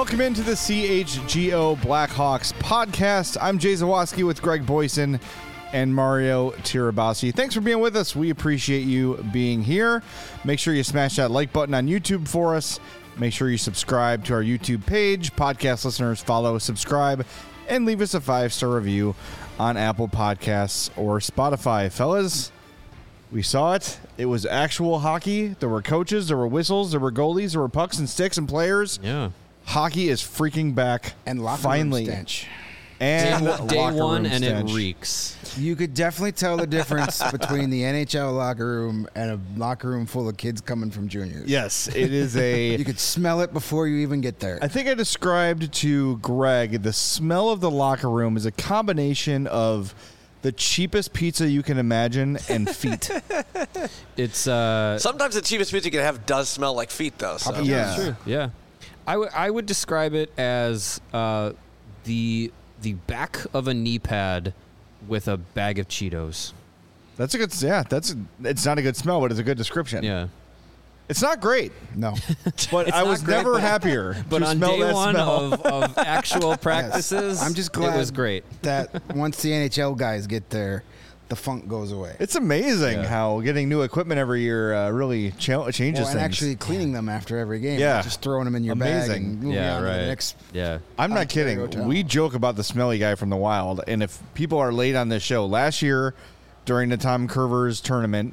Welcome into the CHGO Blackhawks podcast. I'm Jay Zawaski with Greg Boyson and Mario Tirabassi. Thanks for being with us. We appreciate you being here. Make sure you smash that like button on YouTube for us. Make sure you subscribe to our YouTube page. Podcast listeners, follow, subscribe, and leave us a 5-star review on Apple Podcasts or Spotify. Fellas, we saw it. It was actual hockey. There were coaches, there were whistles, there were goalies, there were pucks and sticks and players. Yeah. Hockey is freaking back. And locker finally. room stench. And Day locker one, room and stench. it reeks. You could definitely tell the difference between the NHL locker room and a locker room full of kids coming from juniors. Yes, it is a... You could smell it before you even get there. I think I described to Greg the smell of the locker room is a combination of the cheapest pizza you can imagine and feet. It's Sometimes the cheapest pizza you can have does smell like feet, though. So. Yeah. true. Yeah. I would describe it as the back of a knee pad with a bag of Cheetos. That's a good... Yeah, it's not a good smell, but it's a good description. Yeah. It's not great, No. but It's I not was great, never but- happier But to on smell day that one smell. of actual practices, I'm just glad it was great. that once the NHL guys get there, the funk goes away. It's amazing Yeah. how getting new equipment every year really changes and things. actually cleaning them after every game. Yeah. Not just throwing them in your bag Amazing. and moving Yeah, on to the right. next. Yeah. I'm not Ontario kidding. town. We joke about the smelly guy from the Wild, and if people are late on this show, last year during the Tom Curvers tournament,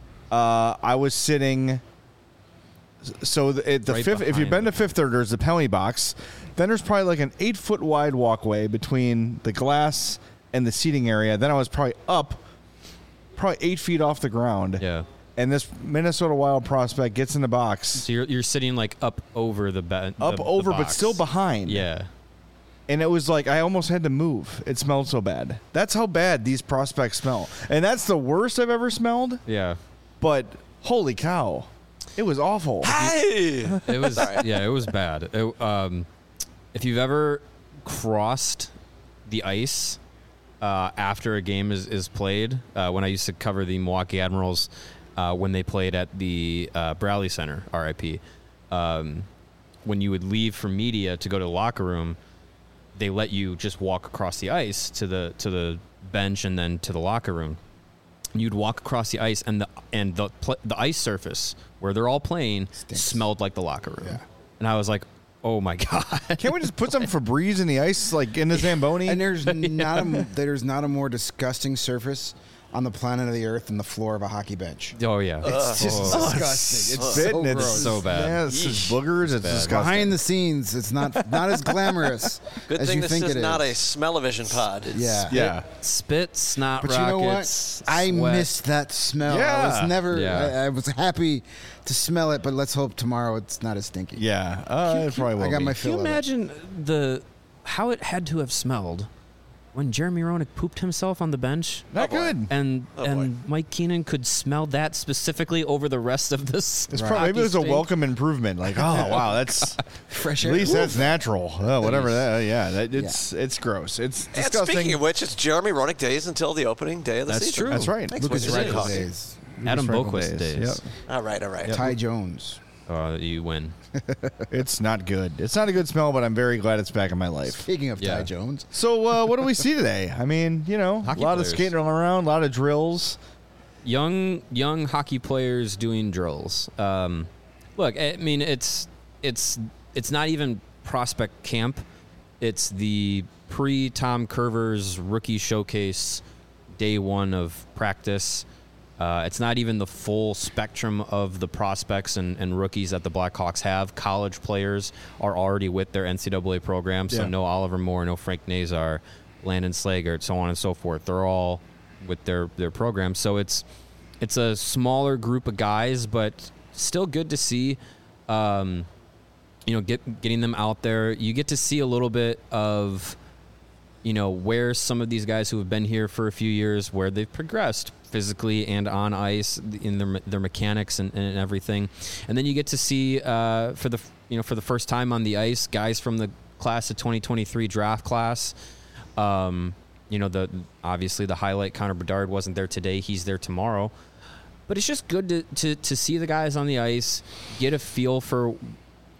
I was sitting. So at the Right fifth, if you've been behind to Fifth Third, there's the penalty box. Then there's probably like an 8-foot wide walkway between the glass and the seating area. Then I was probably 8 feet off the ground. Yeah. And this Minnesota Wild prospect gets in the box, So you're sitting like up over the bed. up over, but still behind. Yeah. And it was like I almost had to move. It smelled so bad. That's how bad these prospects smell. And that's the worst I've ever smelled. Yeah. But holy cow, it was awful. Hey! It was it was bad. If you've ever crossed the ice after a game is played, when I used to cover the Milwaukee Admirals when they played at the Bradley Center, RIP, when you would leave for media to go to the locker room, they let you just walk across the ice to the bench and then to the locker room. You'd walk across the ice, and the ice surface where they're all playing Stinks. smelled like the locker room. Yeah. And I was like, oh my God. Can't we just put some Febreze in the ice, like in the Zamboni? And there's not a more disgusting surface on the planet of the earth than the floor of a hocky bench. Oh, yeah. It's just disgusting. It's Spit so and it's gross. so bad. Yeah, it's just boogers. It's bad. disgusting. Behind the scenes, it's not as glamorous Good as thing you this think is it not a is. smell-o-vision pod. Yeah. Yeah. Spit, snot, But you know what? rockets, I sweat. missed that smell. I Yeah. was never. Yeah. I was happy to smell it, but let's hope tomorrow it's not as stinky. Yeah. It probably will I got be. my Can you fill of it. imagine how it had to have smelled when Jeremy Roenick pooped himself on the bench? Not good. And Oh, and Mike Keenan could smell that specifically over the rest of this. It's probably, maybe it was a welcome improvement. Like, oh wow, that's Fresh at air. least that's natural. Whatever that. Yeah, Yeah. it's gross. It's And disgusting. speaking of which, it's Jeremy Roenick days until the opening day of the That's season. true. That's right. Thanks, Lucas Wizards. Reichel Hockey. days. Adam Reichel Boqvist days. Yep. All right. Ty Jones. You win. It's not good. It's not a good smell, but I'm very glad it's back in my life. Speaking of Yeah. Ty Jones, So what do we see today? I mean, a Hockey lot players. of skating around, a lot of drills. Young hockey players doing drills. Look, I mean, it's not even prospect camp. It's the pre-Tom Curvers rookie showcase, day one of practice. It's not even the full spectrum of the prospects and rookies that the Blackhawks have. College players are already with their NCAA program, so Yeah. no Oliver Moore, no Frank Nazar, Landon Slagert, so on and so forth. They're all with their program. So it's a smaller group of guys, but still good to see. Getting them out there. You get to see a little bit of, where some of these guys who have been here for a few years, where they've progressed physically and on ice in their mechanics and everything. And then you get to see for the first time on the ice, guys from the class of 2023 draft class. Obviously the highlight, Connor Bedard wasn't there today. He's there tomorrow. But it's just good to see the guys on the ice, get a feel for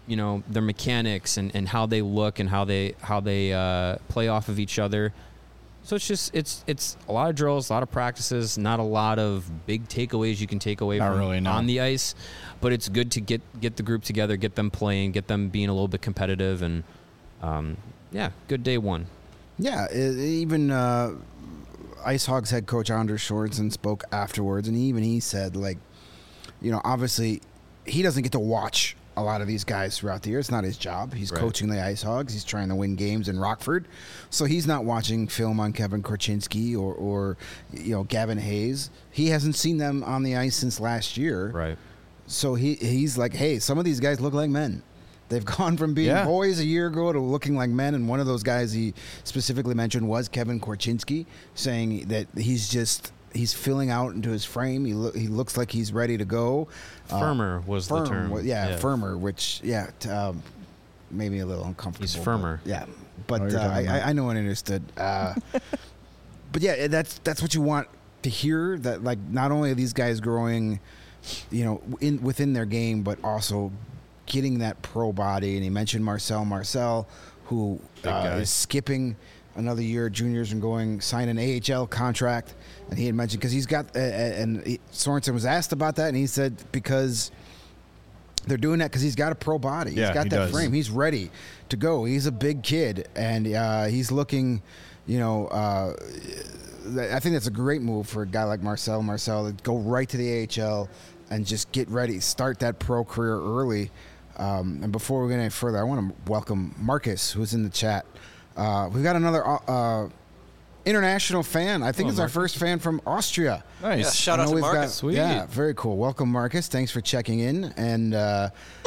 their mechanics and how they look and how they play off of each other. So it's a lot of drills, a lot of practices, not a lot of big takeaways you can take away on the ice, but it's good to get the group together, get them playing, get them being a little bit competitive, and good day one. Yeah, even Ice Hogs head coach Anders Sjordsen spoke afterwards, and he said, like, obviously he doesn't get to watch a lot of these guys throughout the year. It's not his job. He's coaching the Ice Hogs. He's trying to win games in Rockford. So he's not watching film on Kevin Korchinski or Gavin Hayes. He hasn't seen them on the ice since last year. Right. So he's like, hey, some of these guys look like men. They've gone from being boys a year ago to looking like men. And one of those guys he specifically mentioned was Kevin Korchinski, saying that he's filling out into his frame. He looks like he's ready to go. Firmer was the term. Firmer, which made me a little uncomfortable. He's firmer. But I know and understood. But yeah, that's what you want to hear. That, like, not only are these guys growing, within their game, but also getting that pro body. And he mentioned Marcel, who is skipping another year at juniors and sign an AHL contract. And he had mentioned, because he's got, Sorensen was asked about that, and he said because they're doing that because he's got a pro body. He's got that frame. He's ready to go. He's a big kid, and he's looking, I think that's a great move for a guy like Marcel to go right to the AHL and just get ready, start that pro career early. And before we get any further, I want to welcome Marcus, who's in the chat. We've got another international fan. I think it's our first fan from Austria. Nice. Yeah, shout out to Marcus. Sweet. Yeah, very cool. Welcome, Marcus. Thanks for checking in. And I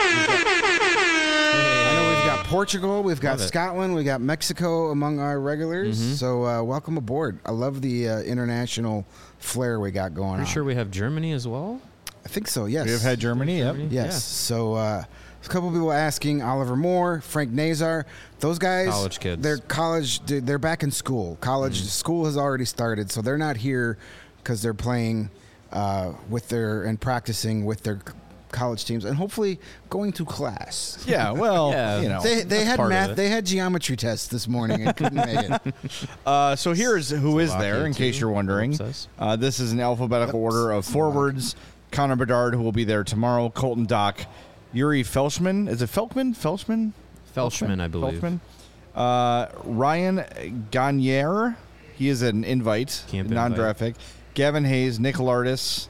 know we've got Portugal, we've got Scotland, we've got Mexico among our regulars. Mm-hmm. So welcome aboard. I love the international flair we got going on. Pretty sure we have Germany as well. I think so, yes. We have had Germany, yep. Yes. Yeah. So a couple people asking, Oliver Moore, Frank Nazar, those guys, college kids. They're back in school. School has already started, so they're not here because they're playing and practicing with their college teams and hopefully going to class. Yeah, well, they had math, they had geometry tests this morning and couldn't make it. So here's who is there, in case you're wondering. This is an alphabetical order of forwards. Connor Bedard, who will be there tomorrow. Colton Dock. Yuri Felshman. Is it Felkman? Felshman, I believe. Ryan Gagne. He is an invite, non-draft pick. Gavin Hayes, Nick Lardis,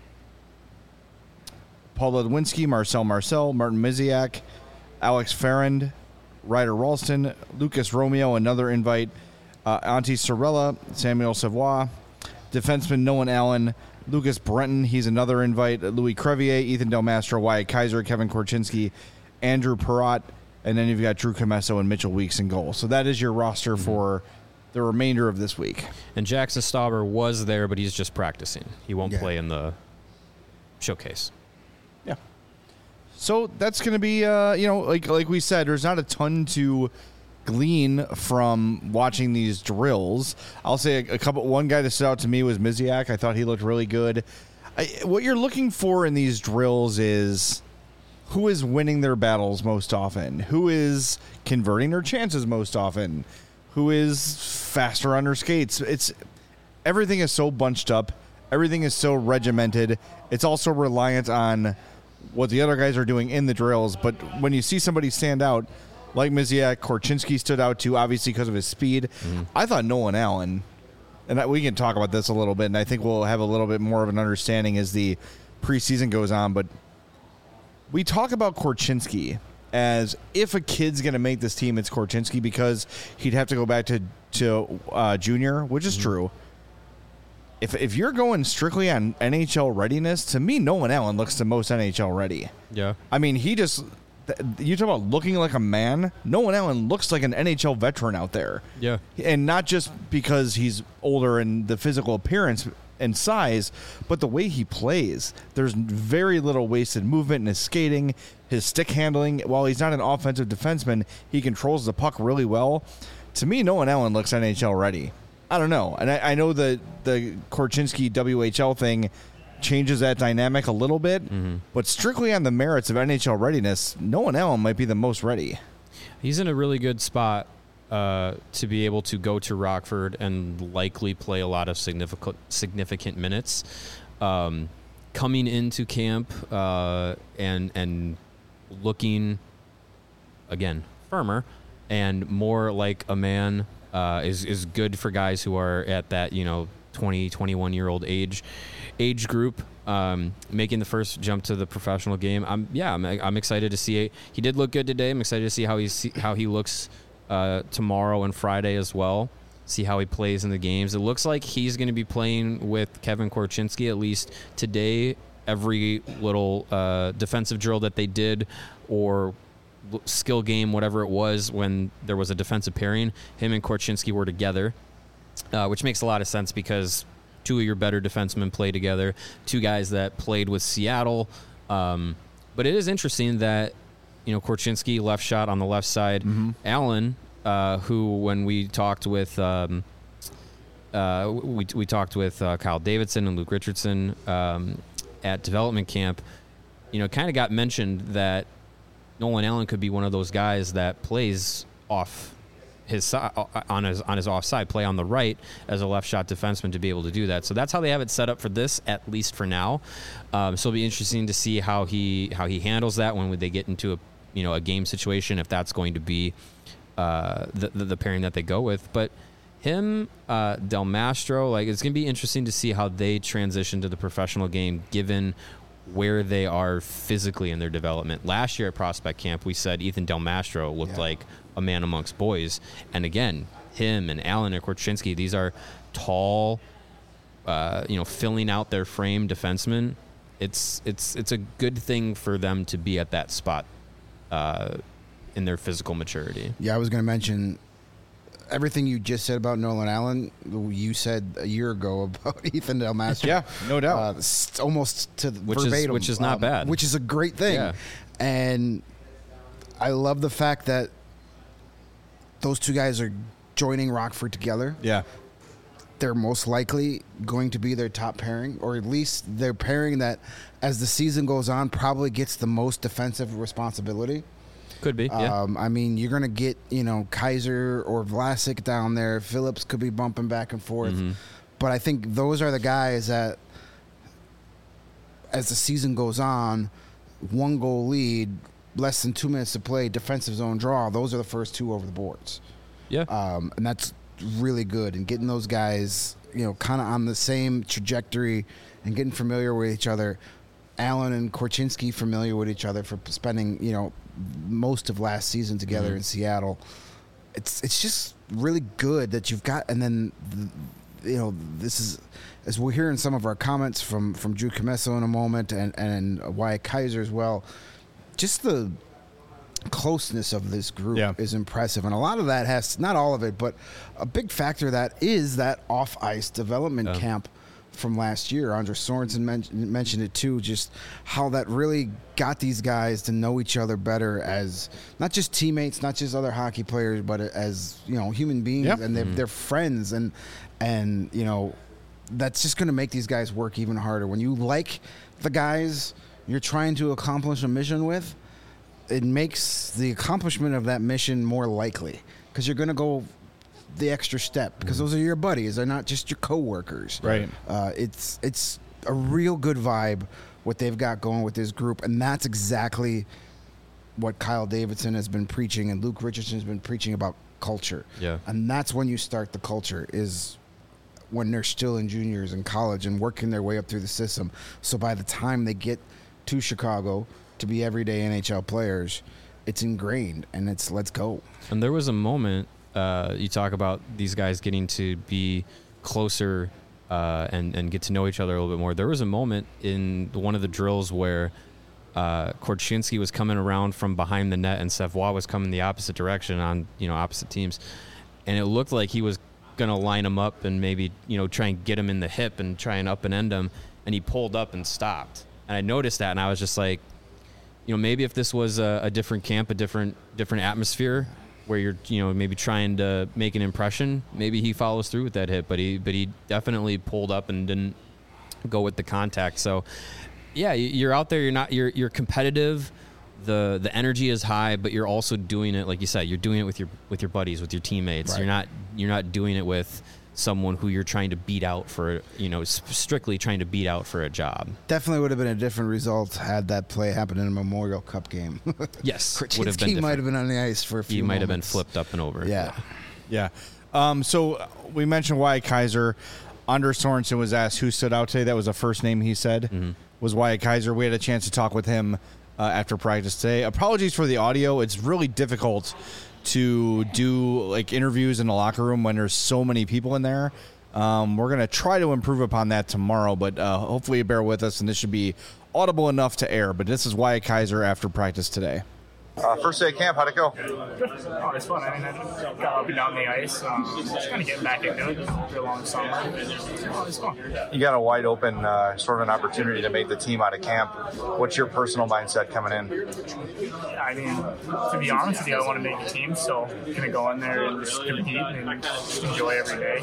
Paul Ledwinski, Marcel, Martin Miziak, Alex Farrand, Ryder Ralston, Lucas Romeo, another invite, Antti Sorella, Samuel Savoie, defenseman Nolan Allen, Lucas Brenton, he's another invite, Louis Crevier, Ethan Del Mastro, Wyatt Kaiser, Kevin Korchinski, Andrew Perrott, and then you've got Drew Comesso and Mitchell Weeks in goal. So that is your roster for the remainder of this week. And Jackson Stauber was there, but he's just practicing. He won't play in the showcase. Yeah. So that's going to be, like we said, there's not a ton to glean from watching these drills. I'll say one guy that stood out to me was Miziak. I thought he looked really good. What you're looking for in these drills is who is winning their battles most often, who is converting their chances most often, who is faster on their skates. Everything is so bunched up. Everything is so regimented. It's also reliant on what the other guys are doing in the drills. But when you see somebody stand out, like Miziak, Korchinski stood out too, obviously because of his speed. Mm-hmm. I thought Nolan Allen, and we can talk about this a little bit, and I think we'll have a little bit more of an understanding as the preseason goes on, but we talk about Korchinski as if a kid's going to make this team, it's Korchinski, because he'd have to go back to junior, which is true. If you're going strictly on NHL readiness, to me, Nolan Allen looks the most NHL ready. Yeah. I mean, you talk about looking like a man. Nolan Allen looks like an NHL veteran out there. Yeah. And not just because he's older and the physical appearance and size, but the way he plays. There's very little wasted movement in his skating, his stick handling. While he's not an offensive defenseman, he controls the puck really well. To me, Nolan Allen looks NHL ready. I don't know. And I know the Korchinski WHL thing changes that dynamic a little bit. But strictly on the merits of NHL readiness, Nolan Allen might be the most ready. He's in a really good spot to be able to go to Rockford and likely play a lot of significant minutes. Coming into camp and looking, again, firmer and more like a man is good for guys who are at that 20, 21-year-old age group, making the first jump to the professional game. I'm excited to see it. He did look good today. I'm excited to see how he looks tomorrow and Friday as well. See how he plays in the games. It looks like he's going to be playing with Kevin Korchinski at least today. Every little defensive drill that they did or skill game, whatever it was, when there was a defensive pairing, him and Korchinski were together, which makes a lot of sense because two of your better defensemen play together, two guys that played with Seattle. But it is interesting that, Korchinski, left shot on the left side. Allen, who when we talked with we talked with Kyle Davidson and Luke Richardson at development camp, kind of got mentioned that Nolan Allen could be one of those guys that plays off his side, on his offside, play on the right as a left shot defenseman to be able to do that. So that's how they have it set up for this, at least for now. So it'll be interesting to see how he handles that when they get into a game situation, if that's going to be the pairing that they go with. But him, Del Mastro, it's going to be interesting to see how they transition to the professional game, given where they are physically in their development. Last year at Prospect Camp, we said Ethan Del Mastro looked like a man amongst boys. And again, him and Allen and Korchinski, these are tall, filling out their frame defensemen. It's a good thing for them to be at that spot in their physical maturity. Yeah, I was going to mention everything you just said about Nolan Allen, you said a year ago about Ethan Del Mastro. Yeah, no doubt. Almost to verbatim. Which is not bad. Which is a great thing. Yeah. And I love the fact that those two guys are joining Rockford together. Yeah. They're most likely going to be their top pairing, or at least their pairing that, as the season goes on, probably gets the most defensive responsibility. Could be, yeah. I mean, you're going to get, Kaiser or Vlasic down there. Phillips could be bumping back and forth. But I think those are the guys that, as the season goes on, 1-goal lead, less than 2 minutes to play, defensive zone draw, those are the first two over the boards. Yeah. And that's really good. And getting those guys, kind of on the same trajectory and getting familiar with each other. Allen and Korchinski familiar with each other for spending, most of last season together in Seattle. It's just really good that you've got, and then this is, as we'll hear in some of our comments from Drew Comesso in a moment, and Wyatt Kaiser as well. Just the closeness of this group is impressive, and a lot of that has, not all of it, but a big factor of that is that off ice development camp from last year. Andres Sorensen mentioned it too, just how that really got these guys to know each other better as not just teammates, not just other hockey players, but as human beings, and they're friends, and that's just going to make these guys work even harder. When you like the guys you're trying to accomplish a mission with, it makes the accomplishment of that mission more likely, because you're going to go the extra step, because those are your buddies. They're not just your coworkers. Right. It's a real good vibe what they've got going with this group, and that's exactly what Kyle Davidson has been preaching and Luke Richardson has been preaching about culture. Yeah. And that's when you start the culture, is when they're still in juniors in college and working their way up through the system. So by the time they get to Chicago to be everyday NHL players, it's ingrained, and it's let's go. And there was a moment, you talk about these guys getting to be closer and get to know each other a little bit more. There was a moment in one of the drills where Korchinski was coming around from behind the net and Savoie was coming the opposite direction on opposite teams, and it looked like he was going to line him up and maybe try and get him in the hip and try and up and end him, and he pulled up and stopped. And I noticed that, and I was just like, maybe if this was a different camp, a different atmosphere, where you're maybe trying to make an impression, maybe he follows through with that hit, but he definitely pulled up and go with the contact. So, yeah, you're out there. You're competitive. The energy is high, but you're also doing it, like you said, you're doing it with your buddies, with your teammates. Right. You're not doing it with someone who you're trying to beat out for, strictly trying to beat out for a job. Definitely would have been a different result had that play happened in a Memorial Cup game. Yes, would have been. He might have been on the ice for a few. He might have been moments. flipped up and over. Yeah. So we mentioned Wyatt Kaiser. Anders Sorensen was asked who stood out today. That was the first name he said was Wyatt Kaiser. We had a chance to talk with him after practice today. Apologies for the audio. It's really difficult to do like interviews in the locker room when there's so many people in there. We're going to try to improve upon that tomorrow, but hopefully you bear with us, and this should be audible enough to air. But this is Wyatt Kaiser after practice today. First day of camp, how'd it go? Good. Oh, it's fun. I mean, I got up and down the ice. Just kind of getting back into it after a long summer. Oh, it's fun. You got a wide open sort of an opportunity to make the team out of camp. What's your personal mindset coming in? I mean, to be honest with you, I want to make the team, so I'm going to go in there and just compete and just enjoy every day.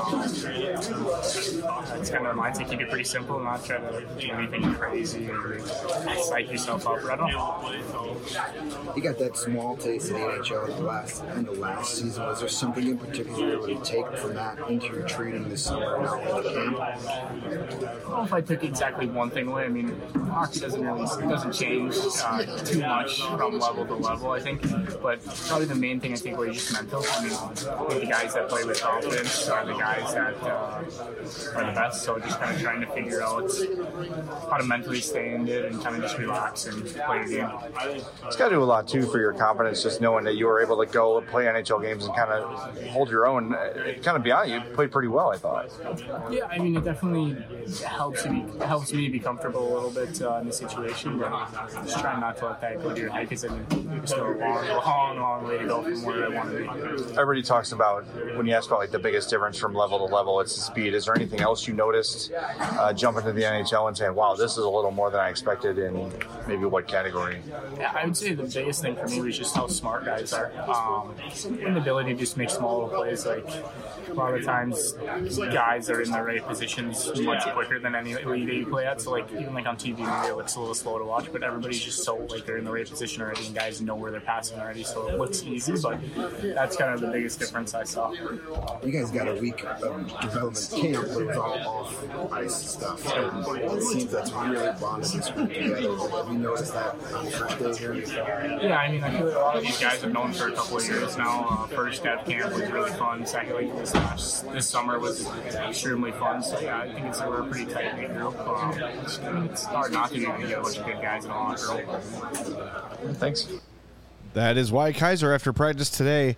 That's kind of the mindset. Keep it pretty simple, not try to do anything crazy or psych yourself up. I don't know. You got that small taste of the NHL at the end of last season. Was there something in particular you were able to take from that into your training this summer and out in the camp? I don't know if I took exactly one thing away. I mean, hockey doesn't change too much from level to level, I think. But probably the main thing I think was just mental. I mean, I think the guys that play with confidence are the guys that are the best. So just kind of trying to figure out how to mentally stay in it and kind of just relax and play the game. It's got to do a lot, too, for your confidence, just knowing that you were able to go and play NHL games and kind of hold your own. Kind of beyond you played pretty well, I thought. Yeah, I mean, it definitely helps me be comfortable a little bit in the situation, but just trying not to let that go to your head because it's still a long way to go from where I want to be. Everybody talks about, when you ask about like the biggest difference from level to level, it's the speed. Is there anything else you noticed jumping to the NHL and saying, wow, this is a little more than I expected in maybe what category? Yeah, I would say the biggest thing for me was just how smart guys are. And the ability to just make small plays. Like, a lot of times, guys are in the right positions much quicker than any league that you play at. So, like, even like on TV, maybe it looks a little slow to watch, but everybody's just so, like, they're in the right position already, and guys know where they're passing already. So it looks easy, but that's kind of the biggest difference I saw. You guys got a week of development camp, but it was all off-ice stuff. It seems that's really bonded this group together. Have you noticed that on the first day here? Yeah, I mean, I feel like a lot of these guys have known for a couple of years now. First at camp was really fun. Second, like this summer was extremely fun. So yeah, I think we're a pretty tight-knit group. It's hard not to get a bunch of good guys in the locker room. Thanks. That is Wyatt Kaiser after practice today.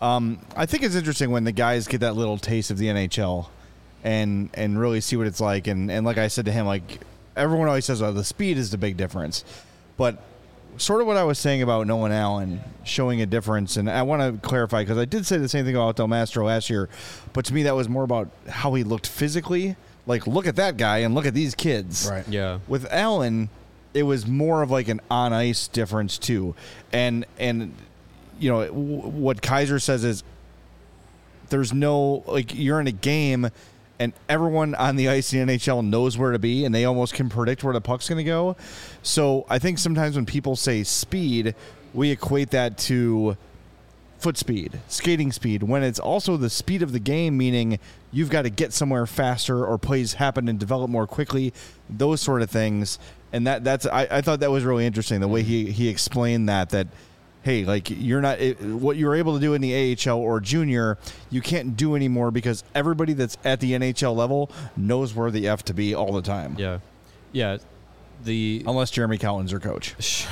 I think it's interesting when the guys get that little taste of the NHL and really see what it's like. And like I said to him, like everyone always says, the speed is the big difference. But sort of what I was saying about Nolan Allen showing a difference, and I want to clarify because I did say the same thing about Del Mastro last year, but to me that was more about how he looked physically. Like, look at that guy and look at these kids. Right. Yeah. With Allen, it was more of like an on-ice difference too. And you know, what Kaiser says is there's no, like, you're in a game and everyone on the ice in the NHL knows where to be, and they almost can predict where the puck's going to go. So I think sometimes when people say speed, we equate that to foot speed, skating speed, when it's also the speed of the game, meaning you've got to get somewhere faster or plays happen and develop more quickly, those sort of things. And that's I thought that was really interesting, the way he explained that hey, like, you're not what you were able to do in the AHL or junior, you can't do anymore because everybody that's at the NHL level knows where the F to be all the time. Yeah. Yeah. Unless Jeremy Collins your coach.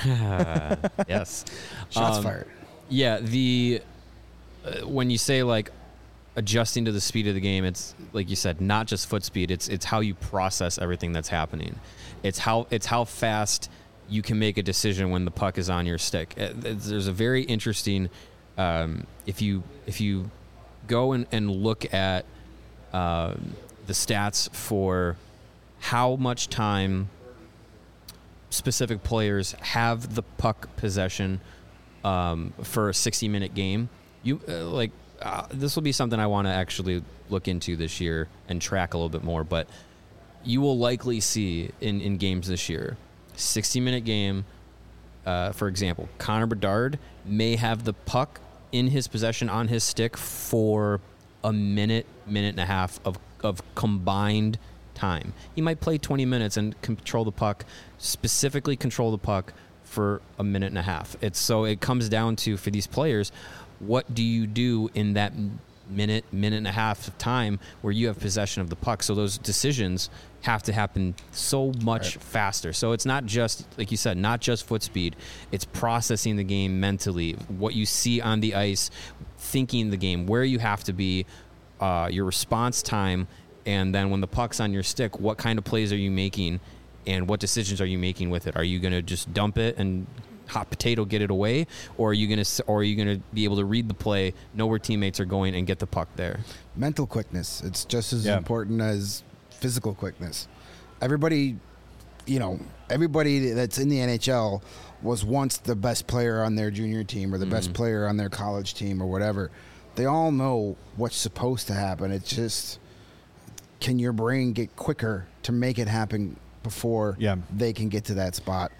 Yes. Shots fired. Yeah. When you say, like, adjusting to the speed of the game, it's like you said, not just foot speed. It's how you process everything that's happening. It's how fast you can make a decision when the puck is on your stick. There's a very interesting, if you go and look at the stats for how much time specific players have the puck possession for a 60-minute game, this will be something I want to actually look into this year and track a little bit more. But you will likely see in games this year, 60-minute game, for example, Connor Bedard may have the puck in his possession on his stick for a minute and a half of combined time. He might play 20 minutes and specifically control the puck for a minute and a half. It comes down to, for these players, what do you do in that minute and a half of time where you have possession of the puck? So those decisions have to happen so much faster. So it's not just, like you said, not just foot speed. It's processing the game mentally, what you see on the ice, thinking the game, where you have to be, your response time, and then when the puck's on your stick, what kind of plays are you making and what decisions are you making with it? Are you going to just dump it and hot potato get it away, or are you going to be able to read the play, know where teammates are going, and get the puck there? Mental quickness. It's just as important as physical quickness. Everybody that's in the NHL was once the best player on their junior team or the best player on their college team or whatever. They all know what's supposed to happen. It's just, can your brain get quicker to make it happen before they can get to that spot?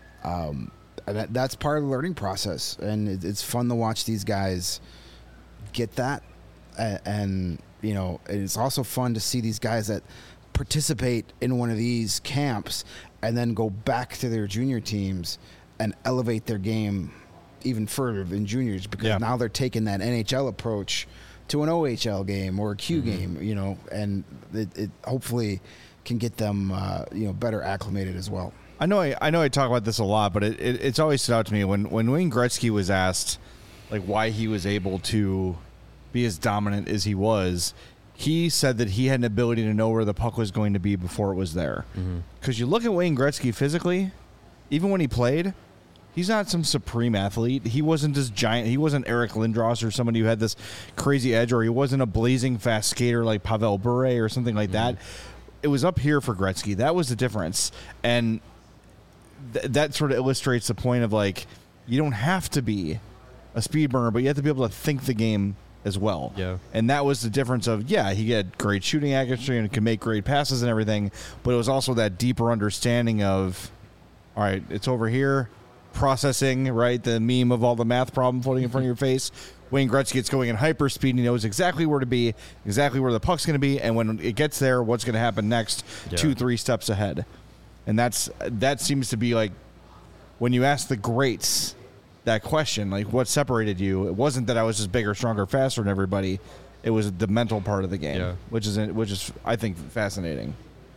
That's part of the learning process, and it's fun to watch these guys get that. And it's also fun to see these guys that participate in one of these camps and then go back to their junior teams and elevate their game even further than juniors, because now they're taking that NHL approach to an OHL game or a Q game, and it hopefully can get them better acclimated as well. I know I talk about this a lot, but it's always stood out to me when Wayne Gretzky was asked like why he was able to be as dominant as he was. He said that he had an ability to know where the puck was going to be before it was there. Because you look at Wayne Gretzky physically, even when he played, he's not some supreme athlete. He wasn't this giant. He wasn't Eric Lindros or somebody who had this crazy edge, or he wasn't a blazing fast skater like Pavel Bure or something like that. It was up here for Gretzky. That was the difference. And that sort of illustrates the point of, like, you don't have to be a speed burner, but you have to be able to think the game as well. Yeah. And that was the difference of, he had great shooting accuracy and could make great passes and everything, but it was also that deeper understanding of, all right, it's over here, processing, right? The meme of all the math problem floating in front of your face. Wayne Gretzky gets going in hyperspeed, and he knows exactly where to be, exactly where the puck's going to be, and when it gets there, what's going to happen next, 2-3 steps ahead. And that seems to be like, when you ask the greats that question, like, what separated you? It wasn't that I was just bigger, stronger, faster than everybody. It was the mental part of the game, which is I think fascinating.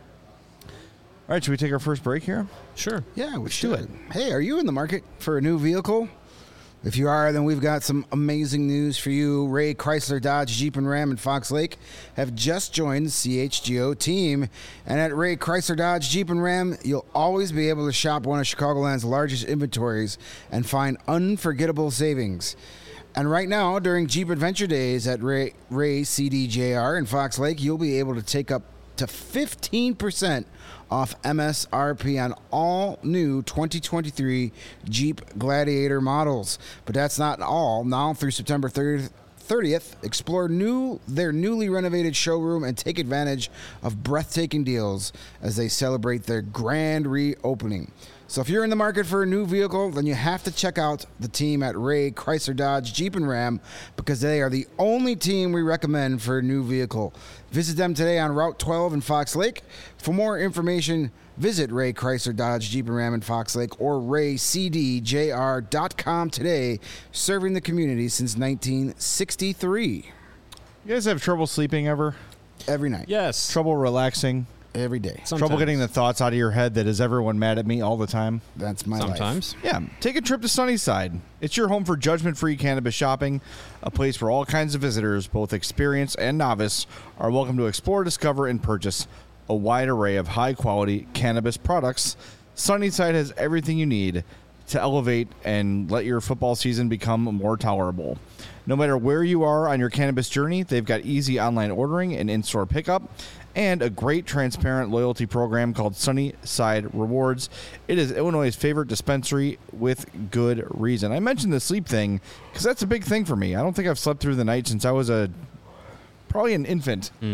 All right, should we take our first break here? Sure. Yeah, we should. Do it. Hey, are you in the market for a new vehicle? If you are, then we've got some amazing news for you. Ray Chrysler Dodge Jeep and Ram in Fox Lake have just joined the CHGO team. And at Ray Chrysler Dodge Jeep and Ram, you'll always be able to shop one of Chicagoland's largest inventories and find unforgettable savings. And right now, during Jeep Adventure Days at Ray CDJR in Fox Lake, you'll be able to take up to 15% off MSRP on all new 2023 Jeep Gladiator models. But that's not all. Now through September 30th, explore their newly renovated showroom and take advantage of breathtaking deals as they celebrate their grand reopening. So if you're in the market for a new vehicle, then you have to check out the team at Ray Chrysler Dodge Jeep and Ram, because they are the only team we recommend for a new vehicle. Visit them today on Route 12 in Fox Lake. For more information, visit Ray Chrysler Dodge Jeep and Ram in Fox Lake or raycdjr.com today, serving the community since 1963. You guys have trouble sleeping ever? Every night. Yes. Trouble relaxing? Every day. Sometimes. Trouble getting the thoughts out of your head that is everyone mad at me all the time? That's my Sometimes. life. Yeah. Take a trip to Sunnyside. It's your home for judgment-free cannabis shopping, a place where all kinds of visitors, both experienced and novice, are welcome to explore, discover, and purchase a wide array of high-quality cannabis products. Sunnyside has everything you need to elevate and let your football season become more tolerable. No matter where you are on your cannabis journey, they've got easy online ordering and in-store pickup, and a great transparent loyalty program called Sunnyside Rewards. It is Illinois' favorite dispensary with good reason. I mentioned the sleep thing because that's a big thing for me. I don't think I've slept through the night since I was probably an infant.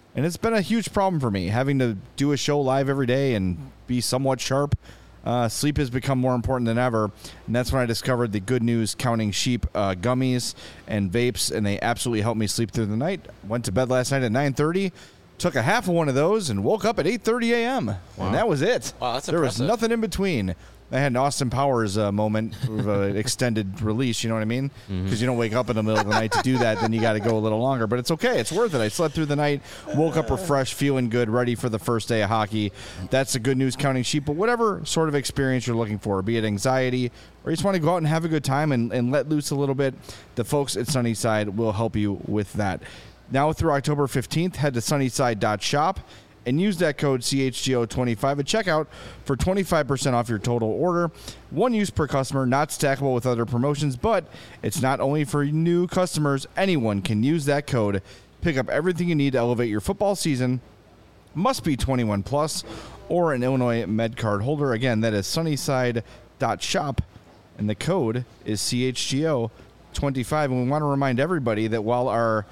And it's been a huge problem for me, having to do a show live every day and be somewhat sharp. Sleep has become more important than ever, and that's when I discovered the Good News Counting Sheep gummies and vapes, and they absolutely helped me sleep through the night. Went to bed last night at 9:30, took a half of one of those, and woke up at 8:30 a.m., and that was it. Wow, that's there impressive. was nothing in between. I had an Austin Powers moment of an extended release, you know what I mean? Because you don't wake up in the middle of the night to do that, then you got to go a little longer. But it's okay. It's worth it. I slept through the night, woke up refreshed, feeling good, ready for the first day of hockey. That's the Good News Counting Sheep. But whatever sort of experience you're looking for, be it anxiety or you just want to go out and have a good time and let loose a little bit, the folks at Sunnyside will help you with that. Now through October 15th, head to sunnyside.shop and use that code CHGO25 at checkout for 25% off your total order. One use per customer, not stackable with other promotions, but it's not only for new customers. Anyone can use that code. Pick up everything you need to elevate your football season. Must be 21 plus or an Illinois Med Card holder. Again, that is sunnyside.shop, and the code is CHGO25. And we want to remind everybody that while our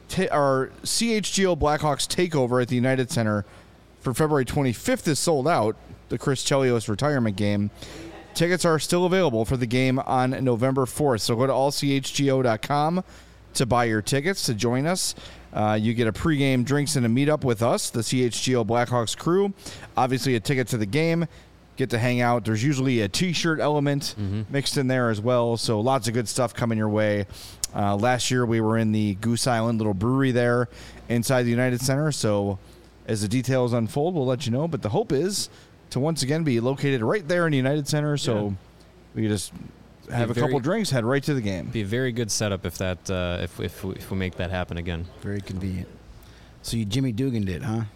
CHGO Blackhawks takeover at the United Center for February 25th is sold out, the Chris Chelios retirement game, tickets are still available for the game on November 4th. So go to allchgo.com to buy your tickets to join us. You get a pregame drinks and a meetup with us, the CHGO Blackhawks crew. Obviously a ticket to the game. Get to hang out. There's usually a T-shirt element mixed in there as well. So lots of good stuff coming your way. Last year we were in the Goose Island little brewery there inside the United Center. So as the details unfold, we'll let you know. But the hope is to once again be located right there in the United Center. So we can just have a couple drinks, head right to the game. Be a very good setup if that if we make that happen again. Very convenient. So you Jimmy Dugan it, huh?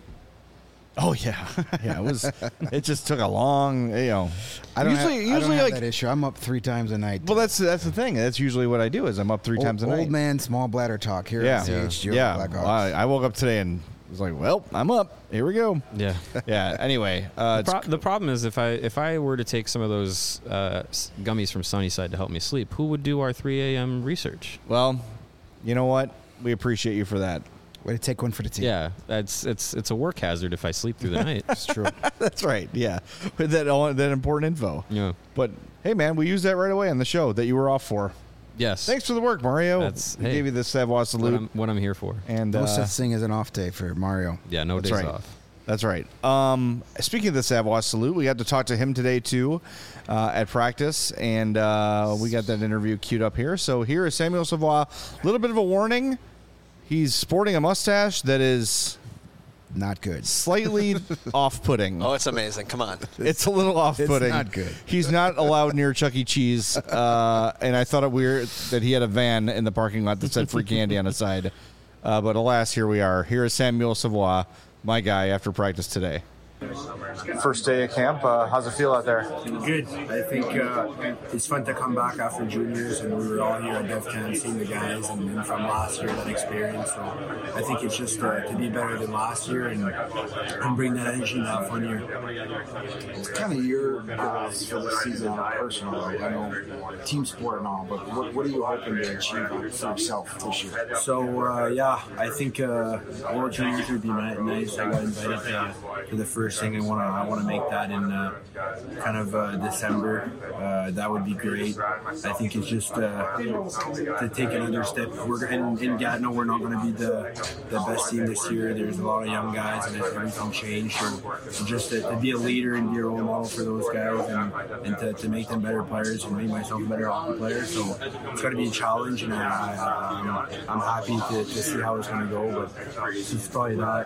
Oh yeah, yeah. It was. It just took a long, I don't have that issue. I'm up 3 times a night. Well, that's the thing. That's usually what I do. Is I'm up 3 times a night. Old man, small bladder talk here at CHGO Blackhawks. Well, I woke up today and was like, well, I'm up. Here we go. Yeah, yeah. Anyway, the problem is if I were to take some of those gummies from Sunnyside to help me sleep, who would do our 3 a.m. research? Well, you know what? We appreciate you for that. Way to take one for the team. Yeah, it's a work hazard if I sleep through the night. It's true. That's right. Yeah, with that important info. Yeah. But hey, man, we used that right away on the show that you were off for. Yes. Thanks for the work, Mario. We gave you the Savoie salute. What I'm here for. And no such thing as an off day for Mario. Yeah, no days off. That's right. Speaking of the Savoie salute, we got to talk to him today too at practice, and we got that interview queued up here. So here is Samuel Savoie. A little bit of a warning. He's sporting a mustache that is not good. Slightly off-putting. Oh, it's amazing. Come on. It's a little off-putting. It's not good. He's not allowed near Chuck E. Cheese, and I thought it weird that he had a van in the parking lot that said free candy on the side. But alas, here we are. Here is Samuel Savoie, my guy, after practice today. First day of camp. How's it feel out there? Good. I think it's fun to come back after juniors, and we were all here at DevCamp seeing the guys and from last year, that experience. So I think it's just to be better than last year and bring that energy and have fun here. It's kind of your goals for the season personally. I know team sport and all, but what are you hoping to achieve for yourself this year? So I think World Juniors would be nice. I got invited to the first thing. I want to make that in kind of December. That would be great. I think it's just to take another step. We're in Gatineau. We're not going to be the best team this year. There's a lot of young guys, and everything changed. So just to be a leader and be a role model for those guys, and to make them better players and make myself a better hockey player. So it's got to be a challenge, and I'm happy to see how it's going to go. But it's probably that.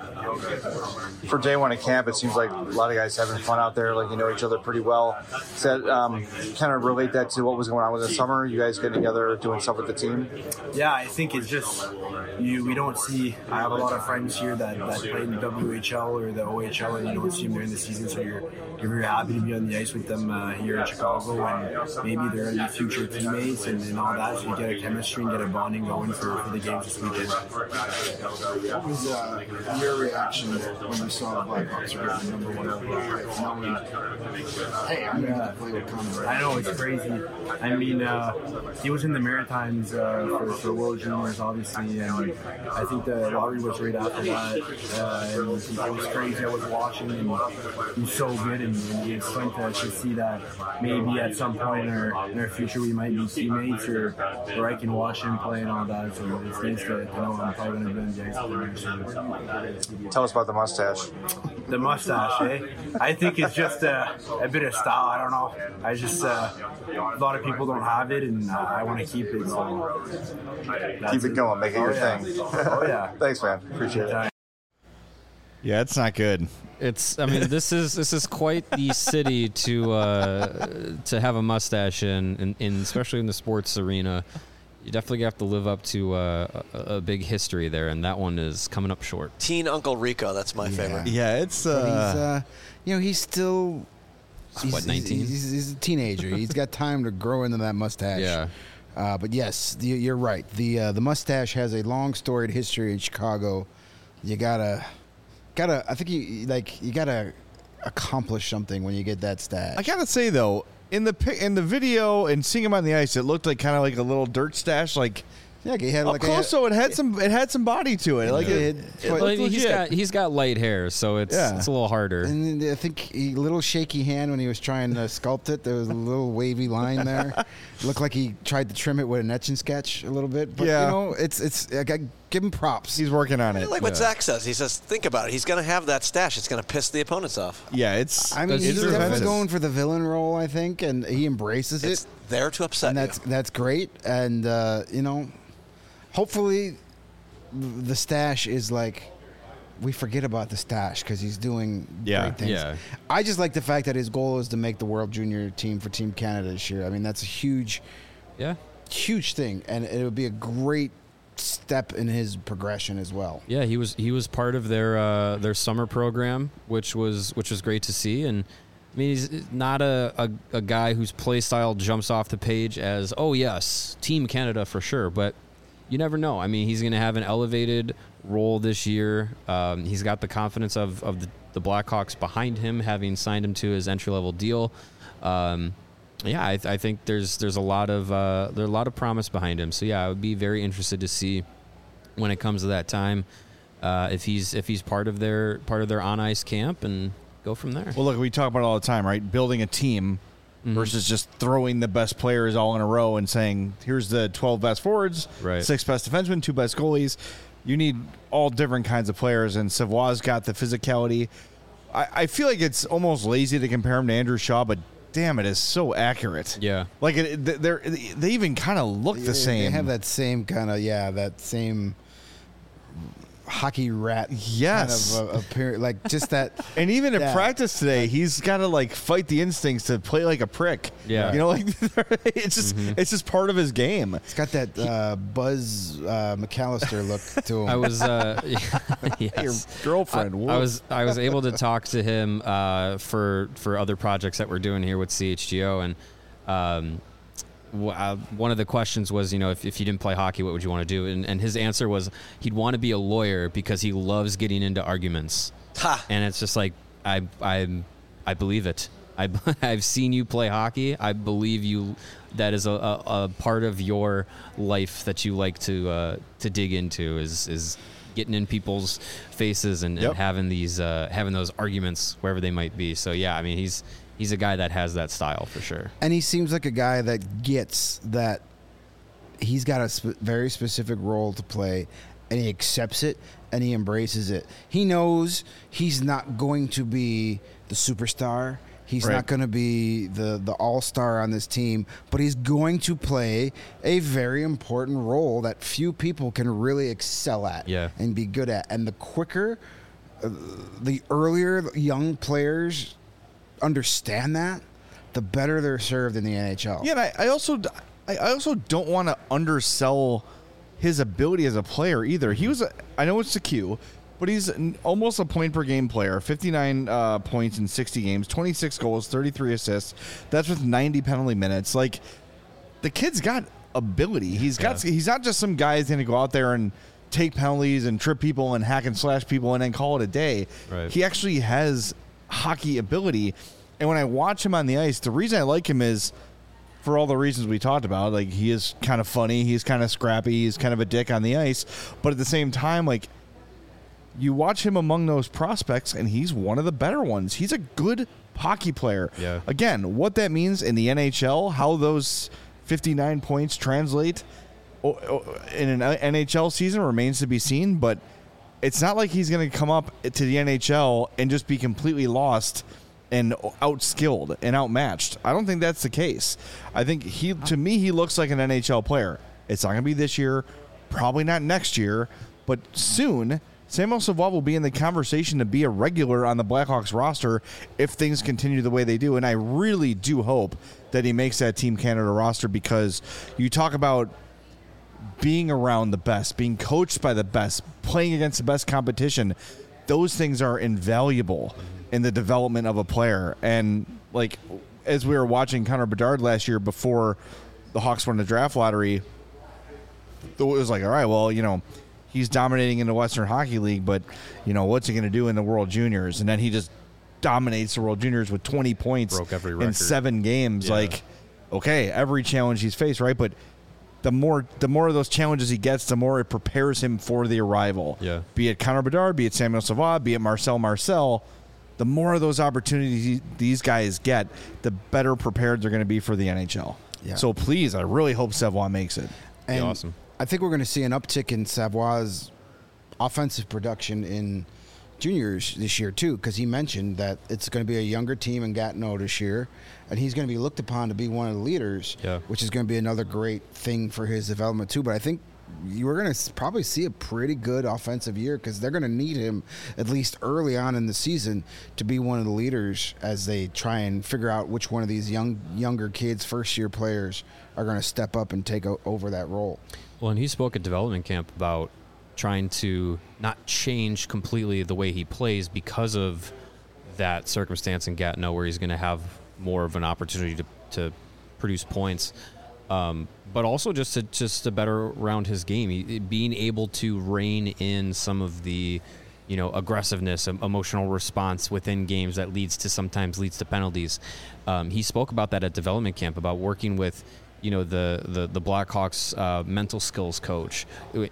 For day one of camp, it seems like a lot of guys having fun out there, like you know each other pretty well. Does that kind of relate that to what was going on with the summer? You guys getting together, doing stuff with the team? Yeah, I think it's just we don't see. I have a lot of friends here that play in the WHL or the OHL, and you don't see them during the season, so you're very happy to be on the ice with them here in Chicago, and maybe they're going to be future teammates and all that, so you get a chemistry and get a bonding going for the games this weekend. What was your reaction when you saw the Blackhawks were getting the #1 Hey, I'm gonna play with Connor. I know, it's crazy. I mean, he was in the Maritimes for World Juniors, obviously, and I think the lottery was right after that. And it was crazy. I was watching, and he was so good, and it's fun to see that maybe at some point in our future we might be teammates, or I can watch him play and all that. So it's nice to know I'm probably going to be in guys. Tell us about the mustache. The mustache, eh? I think it's just a bit of style. I don't know. I just a lot of people don't have it, and I want to keep it. So Keep it going. Make it your thing. Oh yeah. Thanks, man. Appreciate it. Yeah, it's not good. It's. I mean, this is quite the city to have a mustache in, especially in the sports arena. You definitely have to live up to a big history there, and that one is coming up short. Teen Uncle Rico, that's my favorite. Yeah, it's. But he's still. What, 19? He's a teenager. He's got time to grow into that mustache. Yeah. But yes, you're right. The mustache has a long storied history in Chicago. You gotta. I think you gotta accomplish something when you get that stash. I gotta say though, in the video and seeing him on the ice, it looked like kind of like a little dirt stash. Like, yeah, he had up close, so it had some body to it. Like Well, I mean, he's got light hair, so it's a little harder. And I think a little shaky hand when he was trying to sculpt it. There was a little wavy line there. It looked like he tried to trim it with an etch and sketch a little bit. But it's I give him props. He's working on it. Like what Zach says. He says, think about it. He's going to have that stash. It's going to piss the opponents off. Yeah, it's. I mean, he's definitely going for the villain role, I think, and he embraces It's it. there to upset And that's great. And hopefully, the stash is like we forget about the stash because he's doing great things. Yeah. I just like the fact that his goal is to make the World Junior team for Team Canada this year. I mean, that's a huge thing, and it would be a great step in his progression as well. Yeah, he was part of their summer program, which was great to see. And I mean, he's not a guy whose play style jumps off the page as, oh yes, Team Canada for sure, but you never know. I mean, he's going to have an elevated role this year. He's got the confidence of the Blackhawks behind him, having signed him to his entry-level deal. I think there's a lot of promise behind him. So yeah, I would be very interested to see when it comes to that time if he's part of their on ice camp and go from there. Well, look, we talk about it all the time, right? Building a team versus just throwing the best players all in a row and saying, here's the 12 best forwards, 6 best defensemen, 2 best goalies. You need all different kinds of players, and Savoie's got the physicality. I feel like it's almost lazy to compare him to Andrew Shaw, but damn, it is so accurate. Yeah. Like, they even kind of look the same. They have that same kind of, that same hockey rat kind of appearance, like just that. And even in practice today, he's got to like fight the instincts to play like a prick. Yeah, like it's just part of his game. It's got that Buzz McAllister look to him. I was your girlfriend. I was able to talk to him for other projects that we're doing here with CHGO, and one of the questions was, if you didn't play hockey, what would you want to do? And his answer was he'd want to be a lawyer because he loves getting into arguments. And it's just like, I believe it. I've seen you play hockey. I believe you. That is a part of your life that you like to dig into is getting in people's faces and having those arguments wherever they might be. So yeah, I mean, he's a guy that has that style for sure. And he seems like a guy that gets that he's got a very specific role to play, and he accepts it and he embraces it. He knows he's not going to be the superstar. He's not going to be the all-star on this team, but he's going to play a very important role that few people can really excel at and be good at. And the quicker, the earlier young players understand that, the better they're served in the NHL. Yeah, and I also don't want to undersell his ability as a player either. I know it's a Q, but he's almost a point per game player. 59 points in 60 games, 26 goals, 33 assists. That's with 90 penalty minutes. Like, the kid's got ability. He's not just some guy who's going to go out there and take penalties and trip people and hack and slash people and then call it a day. Right. He actually has hockey ability. And when I watch him on the ice, the reason I like him is for all the reasons we talked about. Like, he is kind of funny, he's kind of scrappy, he's kind of a dick on the ice, but at the same time, like, you watch him among those prospects, and he's one of the better ones. He's a good hockey player. Yeah. Again, what that means in the NHL, how those 59 points translate in an NHL season remains to be seen, but it's not like he's going to come up to the NHL and just be completely lost and outskilled and outmatched. I don't think that's the case. I think to me, he looks like an NHL player. It's not going to be this year, probably not next year, but soon Samuel Savoie will be in the conversation to be a regular on the Blackhawks roster if things continue the way they do. And I really do hope that he makes that Team Canada roster, because you talk about being around the best, being coached by the best, playing against the best competition. Those things are invaluable in the development of a player. And like, as we were watching Connor Bedard last year before the Hawks won the draft lottery, it was like, all right, well, you know, he's dominating in the Western Hockey League, but, you know, what's he going to do in the World Juniors? And then he just dominates the World Juniors with 20 points in 7 games. Yeah. Like, okay, every challenge he's faced, right? But the more of those challenges he gets, the more it prepares him for the arrival. Yeah. Be it Connor Bedard, be it Samuel Savoie, be it Marcel. The more of those opportunities these guys get, the better prepared they're going to be for the NHL. Yeah. So please, I really hope Savoie makes it. And awesome. I think we're going to see an uptick in Savoie's offensive production in juniors this year too, because he mentioned that it's going to be a younger team in Gatineau this year, and he's going to be looked upon to be one of the leaders, which is going to be another great thing for his development too. But I think we're going to probably see a pretty good offensive year, because they're going to need him at least early on in the season to be one of the leaders as they try and figure out which one of these younger kids, first-year players, are going to step up and take over that role. Well, and he spoke at development camp about trying to not change completely the way he plays because of that circumstance in Gatineau, where he's going to have more of an opportunity to produce points, but also just to better round his game, being able to rein in some of the, you know, aggressiveness, emotional response within games that sometimes leads to penalties. He spoke about that at development camp, about working with, you know, the Blackhawks mental skills coach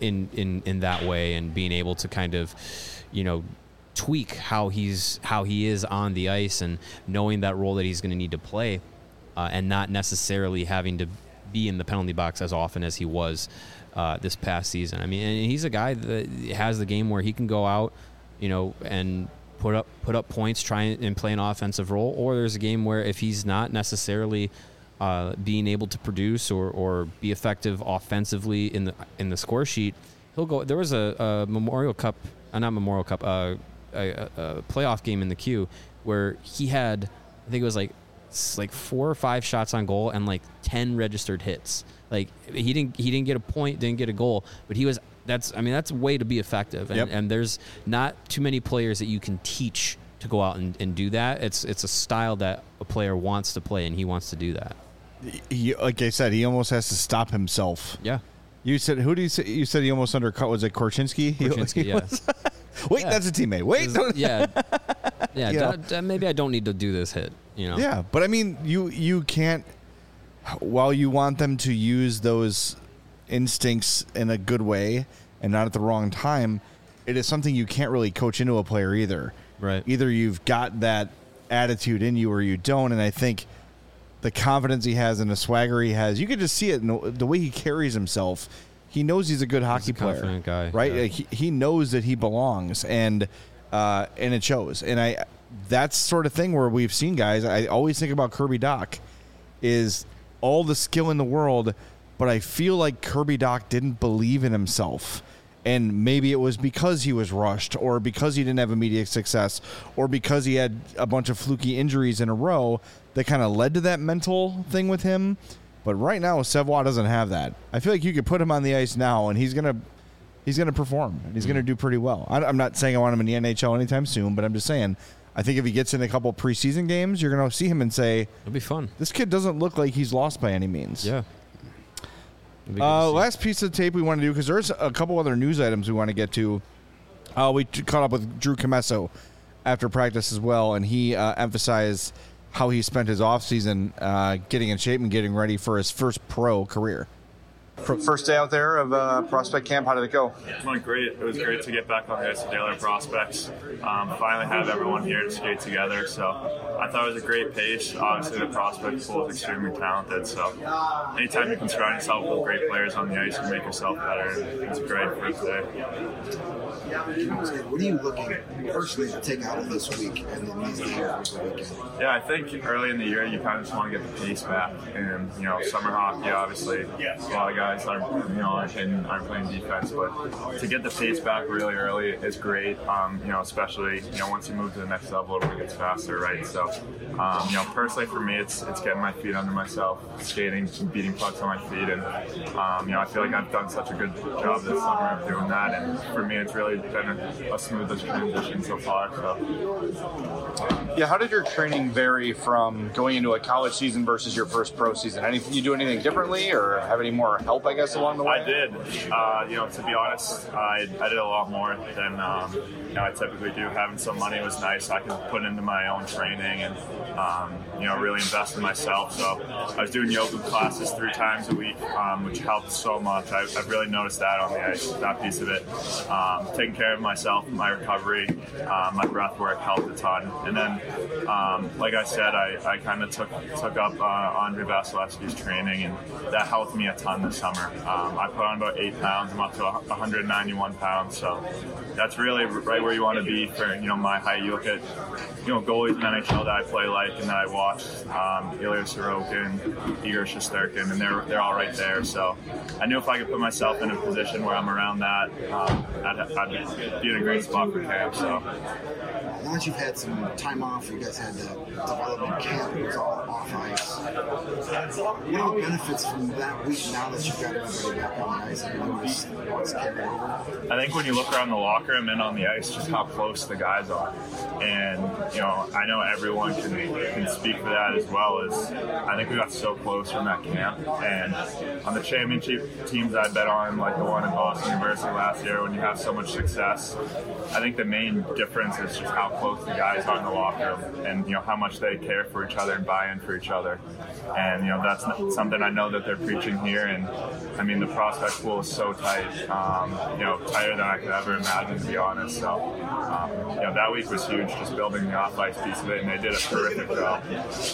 in that way, and being able to kind of, you know, tweak how he is on the ice, and knowing that role that he's going to need to play, and not necessarily having to be in the penalty box as often as he was this past season. I mean, and he's a guy that has the game where he can go out, you know, and put up points, try and play an offensive role, or there's a game where if he's not necessarily being able to produce or be effective offensively in the score sheet, he'll go. There was a Memorial Cup, not Memorial Cup, a playoff game in the queue where he had, I think it was like 4 or 5 shots on goal and like 10 registered hits. Like, he didn't get a point, didn't get a goal, but that's a way to be effective. And there's not too many players that you can teach to go out and do that. It's a style that a player wants to play, and he wants to do that. Like I said, he almost has to stop himself. Yeah. You said, who do you say? You said he almost undercut. Was it Korchinski? Korchinski, yes. Wait, that's a teammate. Wait. Maybe I don't need to do this hit. You know. Yeah, but I mean, you can't. While you want them to use those instincts in a good way and not at the wrong time, it is something you can't really coach into a player either. Right. Either you've got that attitude in you or you don't, and I think the confidence he has and the swagger he has, you could just see it in the way he carries himself. He knows he's a good hockey player. Confident guy, right? Yeah. He knows that he belongs, and it shows. And that's sort of thing where we've seen guys. I always think about Kirby Dach, is all the skill in the world, but I feel like Kirby Dach didn't believe in himself. And maybe it was because he was rushed, or because he didn't have immediate success, or because he had a bunch of fluky injuries in a row that kind of led to that mental thing with him. But right now, Savoie doesn't have that. I feel like you could put him on the ice now, and he's gonna perform, and he's gonna do pretty well. I'm not saying I want him in the NHL anytime soon, but I'm just saying, I think if he gets in a couple preseason games, you're gonna see him and say, it'll be fun. This kid doesn't look like he's lost by any means. Yeah. Last piece of tape we want to do, because there's a couple other news items we want to get to. We caught up with Drew Commesso after practice as well, and he emphasized how he spent his offseason getting in shape and getting ready for his first pro career. First day out there of prospect camp, how did it go? It went great. It was great to get back on the ice with the other prospects. Finally have everyone here to skate together. So I thought it was a great pace. Obviously, the prospect pool is extremely talented. So anytime you can surround yourself with great players on the ice, you make yourself better. And it's a great first day. What are you looking personally to take out of this week and then these days over the weekend? Yeah, I think early in the year you kind of just want to get the pace back, and summer hockey, obviously, a lot of guys aren't playing defense, but to get the pace back really early is great. Especially once you move to the next level, it gets faster, right? So, personally for me, it's getting my feet under myself, skating, beating pucks on my feet, and I feel like I've done such a good job this summer of doing that, and for me, it's really been a smoothest transition so far. So. Yeah, how did your training vary from going into a college season versus your first pro season? You do anything differently, or have any more help, I guess, along the way? I did. To be honest, I did a lot more than I typically do. Having some money was nice. I could put into my own training and really invest in myself. So I was doing yoga classes 3 times a week, which helped so much. I've really noticed that on the ice, that piece of it. Taking care of myself, my recovery, my breath work helped a ton. And then, like I said, I kind of took up Andrei Vasilevsky's training, and that helped me a ton this summer. I put on about 8 pounds. I'm up to 191 pounds, so that's really right where you want to be for my height. You look at goalies in NHL that I play like and that I watch, Ilya Sorokin, Igor Shesterkin, and they're all right there. So I knew if I could put myself in a position where I'm around that, I'd be in a great spot for camp. So. Now that you've had some time off, you guys had the development camp, it was all off ice. What are the benefits from that week now that you've got everybody back on the ice and what's carried over? I think when you look around the locker room and on the ice, just how close the guys are. And, I know everyone can speak for that as well as I think we got so close from that camp. And on the championship teams I bet on, like the one in Boston University last year, when you have so much success, I think the main difference is just how close the guys are in the locker room and, how much they care for each other and buy in for each other. And, that's something I know that they're preaching here. And, the prospect pool is so tight, tighter than I could ever imagine, to be honest. So, that week was huge, just building the off-ice piece of it, and they did a terrific job.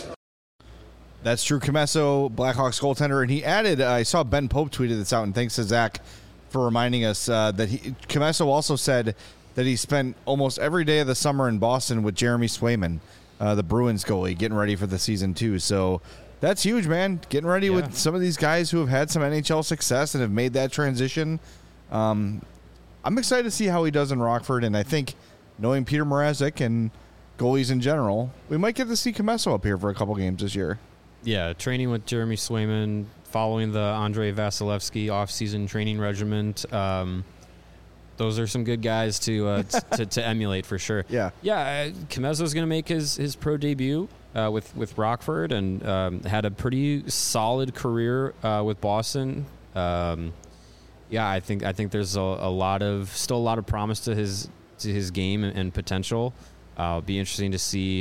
That's Drew Commesso, Blackhawks goaltender, and he added, I saw Ben Pope tweeted this out, and thanks to Zach for reminding us that Commesso also said that he spent almost every day of the summer in Boston with Jeremy Swayman, the Bruins goalie, getting ready for the season too. So that's huge, man. Getting ready with some of these guys who have had some NHL success and have made that transition. I'm excited to see how he does in Rockford, and I think knowing Peter Mrazek and goalies in general, we might get to see Commesso up here for a couple games this year. Yeah, training with Jeremy Swayman, following the Andrei Vasilevsky off-season training regimen. Those are some good guys to emulate for sure. Yeah. Comesso's going to make his pro debut with Rockford and had a pretty solid career with Boston. I think there's still a lot of promise to his game and potential. It'll be interesting to see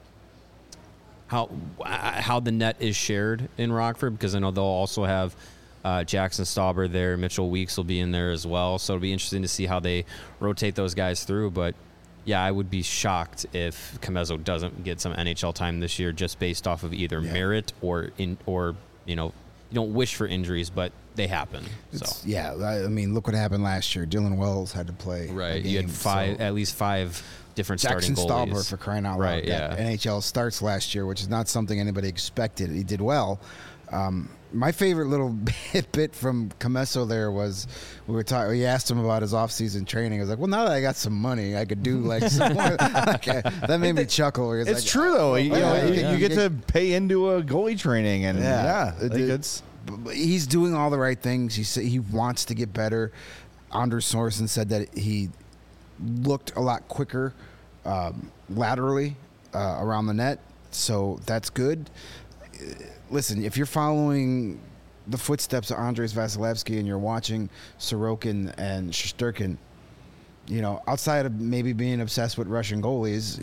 how the net is shared in Rockford, because I know they'll also have Jackson Stauber there. Mitchell Weeks will be in there as well. So it'll be interesting to see how they rotate those guys through. But, I would be shocked if Commesso doesn't get some NHL time this year just based off of either merit or you don't wish for injuries, but they happen. Look what happened last year. Dylan Wells had to play. Right. You had at least five different Jackson starting goalies. Stauber, for crying out loud. Right, yeah. NHL starts last year, which is not something anybody expected. He did well. My favorite little bit from Commesso there was we asked him about his off-season training. I was like, well, now that I got some money, I could do like some more. That made me chuckle. It's true, though. You get to pay into a goalie training. And he's doing all the right things. He wants to get better. Anders Sorensen said that he looked a lot quicker laterally around the net, so that's good. Listen, if you're following the footsteps of Andrei Vasilevsky and you're watching Sorokin and Shesterkin, outside of maybe being obsessed with Russian goalies,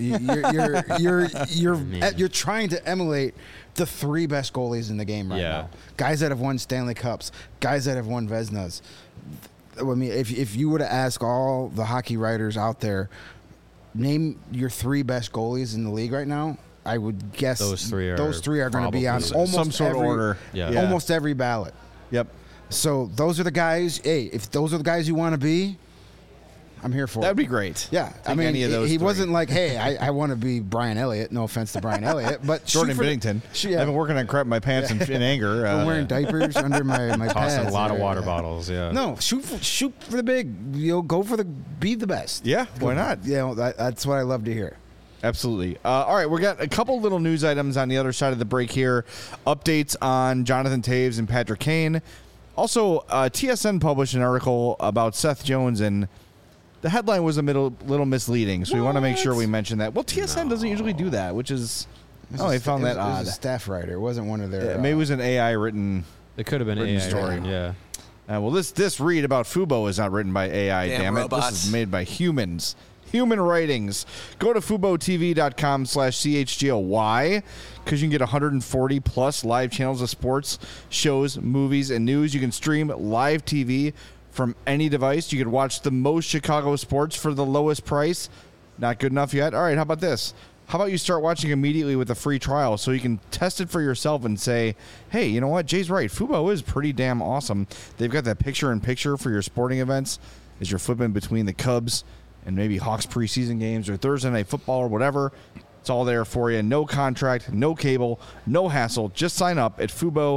you're trying to emulate the 3 best goalies in the game right now. Guys that have won Stanley Cups, guys that have won Vezinas. I mean, if you were to ask all the hockey writers out there, name your 3 best goalies in the league right now, I would guess those three are going to be on almost some sort of order. Almost every ballot. Yep. So those are the guys. Hey, if those are the guys you want to be, I'm here for it. That'd be great. Yeah. I mean, any of those he 3. wasn't like, hey, I want to be Brian Elliott. No offense to Brian Elliott, but Jordan Binnington. I've been working on crap in my pants in anger. I'm wearing diapers under my pads. Tossing a lot of water bottles. Yeah. No, shoot for the big. Go for be the best. Yeah. Why not? That's what I love to hear. Absolutely. All right, we got a couple little news items on the other side of the break here. Updates on Jonathan Toews and Patrick Kane. Also, TSN published an article about Seth Jones, and the headline was a little misleading, so we want to make sure we mention that. Well, TSN doesn't usually do that, which is... I found that odd. It was a staff writer. It wasn't one of their... maybe it was an AI-written... It could have been AI story. Yeah. Well, this read about Fubo is not written by AI, damn it. Robots. This is made by humans. Human writings. Go to FuboTV.com/CHGO. Why? Because you can get 140 plus live channels of sports, shows, movies, and news. You can stream live TV from any device. You can watch the most Chicago sports for the lowest price. Not good enough yet? All right, how about this? How about you start watching immediately with a free trial so you can test it for yourself and say, hey, you know what? Jay's right. Fubo is pretty damn awesome. They've got that picture-in-picture for your sporting events as you're flipping between the Cubs and maybe Hawks preseason games or Thursday Night Football or whatever. It's all there for you. No contract, no cable, no hassle. Just sign up at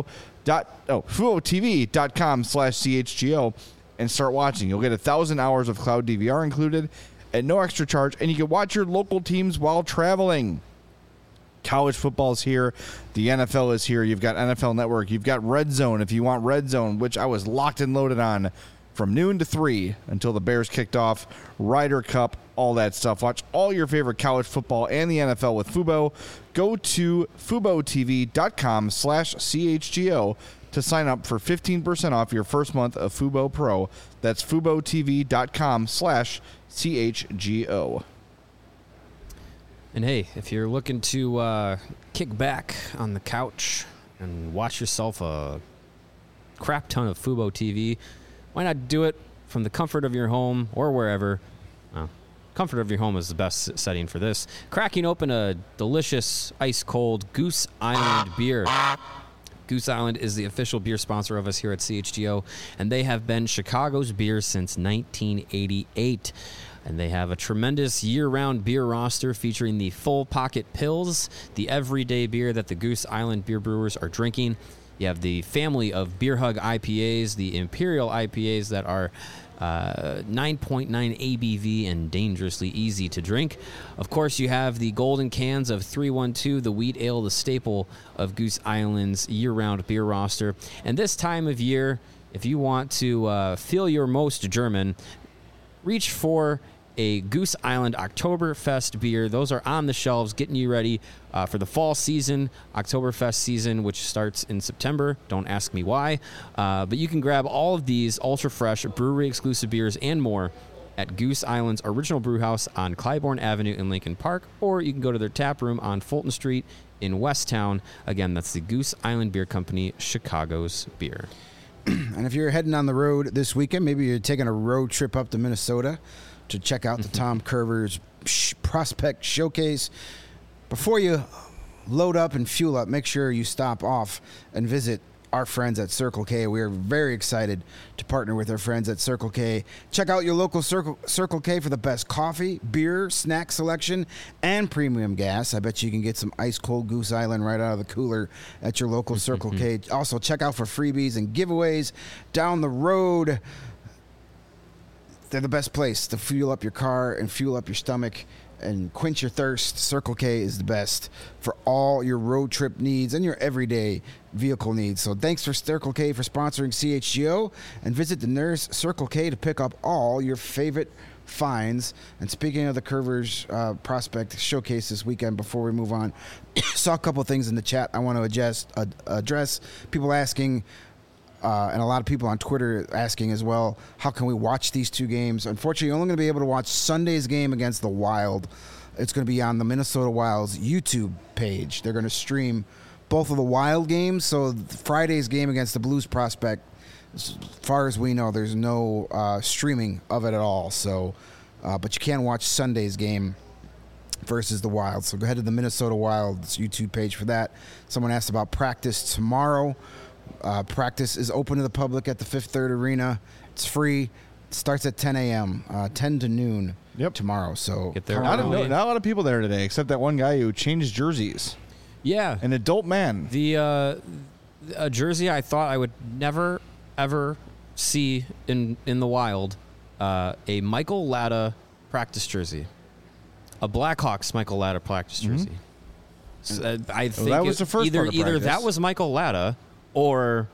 FuboTV.com/CHGO and start watching. You'll get 1,000 hours of cloud DVR included at no extra charge, and you can watch your local teams while traveling. College football is here. The NFL is here. You've got NFL Network. You've got Red Zone if you want Red Zone, which I was locked and loaded on from noon to 3 until the Bears kicked off. Ryder Cup, all that stuff. Watch all your favorite college football and the NFL with Fubo. Go to FuboTV.com/CHGO to sign up for 15% off your first month of Fubo Pro. That's FuboTV.com/CHGO. And hey, if you're looking to kick back on the couch and watch yourself a crap ton of Fubo TV, why not do it from the comfort of your home or wherever? Well, comfort of your home is the best setting for this. Cracking open a delicious ice-cold Goose Island beer. Goose Island is the official beer sponsor of us here at CHGO, and they have been Chicago's beer since 1988. And they have a tremendous year-round beer roster featuring the full pocket pills, the everyday beer that the Goose Island beer brewers are drinking. You have the family of Beer Hug IPAs, the Imperial IPAs that are 9.9 ABV and dangerously easy to drink. Of course, you have the golden cans of 312, the wheat ale, the staple of Goose Island's year-round beer roster. And this time of year, if you want to feel your most German, reach for a Goose Island Oktoberfest beer. Those are on the shelves, getting you ready for the fall season, Oktoberfest season, which starts in September. Don't ask me why. But you can grab all of these ultra-fresh brewery-exclusive beers and more at Goose Island's original brewhouse on Clybourne Avenue in Lincoln Park, or you can go to their tap room on Fulton Street in Westtown. Again, that's the Goose Island Beer Company, Chicago's beer. And if you're heading on the road this weekend, maybe you're taking a road trip up to Minnesota to check out the Tom Curvers Prospect Showcase. Before you load up and fuel up, make sure you stop off and visit our friends at Circle K. We are very excited to partner with our friends at Circle K. Check out your local Circle K for the best coffee, beer, snack selection, and premium gas. I bet you can get some ice-cold Goose Island right out of the cooler at your local Circle K. Also, check out for freebies and giveaways down the road. They're the best place to fuel up your car and fuel up your stomach and quench your thirst. Circle K is the best for all your road trip needs and your everyday vehicle needs. So thanks for Circle K for sponsoring CHGO, and visit the nearest Circle K to pick up all your favorite finds. And speaking of the Curvers Prospect Showcase this weekend, before we move on, saw a couple of things in the chat I want to address. People asking and a lot of people on Twitter asking as well, how can we watch these two games? Unfortunately, you're only going to be able to watch Sunday's game against the Wild. It's going to be on the Minnesota Wild's YouTube page. They're going to stream both of the Wild games. So Friday's game against the Blues Prospect, as far as we know, there's no streaming of it at all. So, but you can watch Sunday's game versus the Wild. So go ahead to the Minnesota Wild's YouTube page for that. Someone asked about practice tomorrow. Practice is open to the public at the Fifth Third Arena. It's free. It starts at 10 a.m., 10 to noon tomorrow. So get there. Not a lot of people there today, except that one guy who changed jerseys. Yeah. An adult man. A jersey I thought I would never, ever see in the Wild, a Michael Latta practice jersey. A Blackhawks Michael Latta practice jersey. So, I think that was the first part of either practice. that was Michael Latta or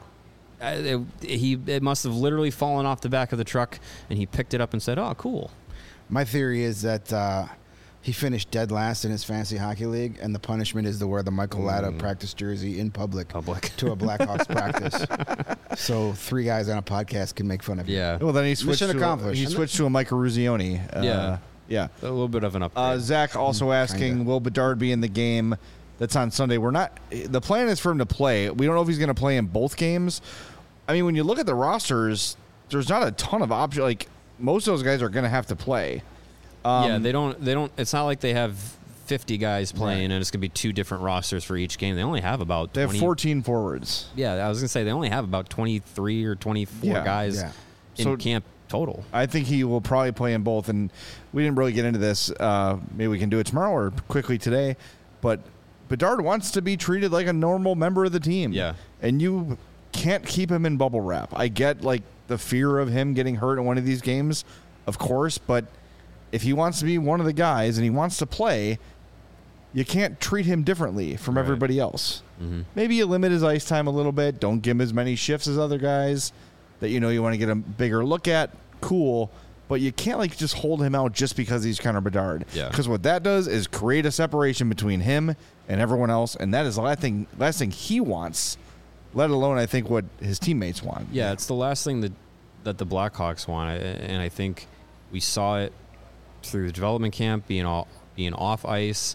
it must have literally fallen off the back of the truck and he picked it up and said, "Oh, cool." My theory is that he finished dead last in his fantasy hockey league, and the punishment is to wear the Michael Latta practice jersey in public to a Blackhawks practice. So 3 guys on a podcast can make fun of you. Yeah. Well, then he switched Mission accomplished. He switched to a Mike Ruzioni. Yeah. A little bit of an upgrade. Zach also asking, kinda. will Bedard be in the game that's on Sunday? The plan is for him to play. We don't know if he's going to play in both games. I mean, when you look at the rosters, there's not a ton of options. Like, most of those guys are going to have to play. They don't. It's not like they have 50 guys playing and it's going to be 2 different rosters for each game. They only have about 20. They have 14 forwards. Yeah, I was going to say they only have about 23 or 24 guys in camp total. I think he will probably play in both, and we didn't really get into this. Maybe we can do it tomorrow or quickly today, but Bedard wants to be treated like a normal member of the team. Yeah. And you can't keep him in bubble wrap. I get, like, the fear of him getting hurt in one of these games, of course, but if he wants to be one of the guys and he wants to play, you can't treat him differently from everybody else. Mm-hmm. Maybe you limit his ice time a little bit. Don't give him as many shifts as other guys that you want to get a bigger look at. Cool. But you can't, like, just hold him out just because he's Connor Bedard. Yeah. Because what that does is create a separation between him and everyone else, and that is the last thing he wants, let alone, I think, what his teammates want. Yeah, it's the last thing that the Blackhawks want, and I think we saw it through the development camp, being off ice,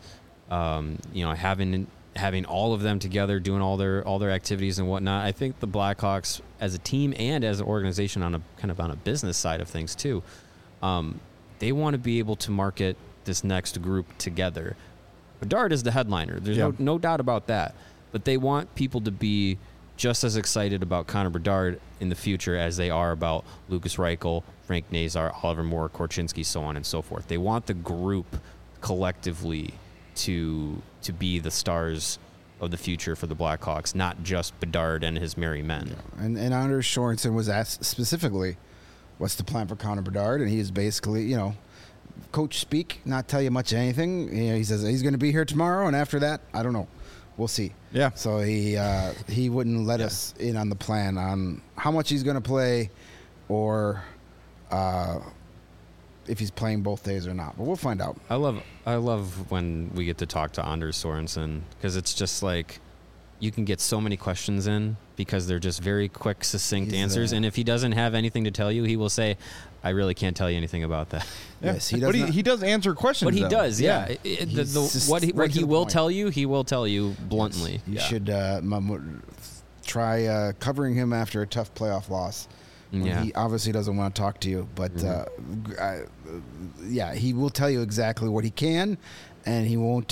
having all of them together, doing all their activities and whatnot. I think the Blackhawks, as a team and as an organization, on a business side of things too, they want to be able to market this next group together. Bedard is the headliner. There's no doubt about that. But they want people to be just as excited about Connor Bedard in the future as they are about Lucas Reichel, Frank Nazar, Oliver Moore, Korchinski, so on and so forth. They want the group collectively to be the stars of the future for the Blackhawks, not just Bedard and his merry men. Yeah. And Anders Sorensen was asked specifically, what's the plan for Connor Bedard? And he is basically, coach speak, not tell you much of anything. He says he's going to be here tomorrow, and after that, I don't know. We'll see. Yeah. So he wouldn't let us in on the plan on how much he's going to play or if he's playing both days or not. But we'll find out. I love when we get to talk to Anders Sorensen, because it's just like you can get so many questions in because they're just very quick, succinct answers. And if he doesn't have anything to tell you, he will say, I really can't tell you anything about that. Yeah. Yes, he does. But he does answer questions. But he does, yeah. What he will tell you, he will tell you bluntly. You should try covering him after a tough playoff loss. Yeah. He obviously doesn't want to talk to you, but he will tell you exactly what he can, and he won't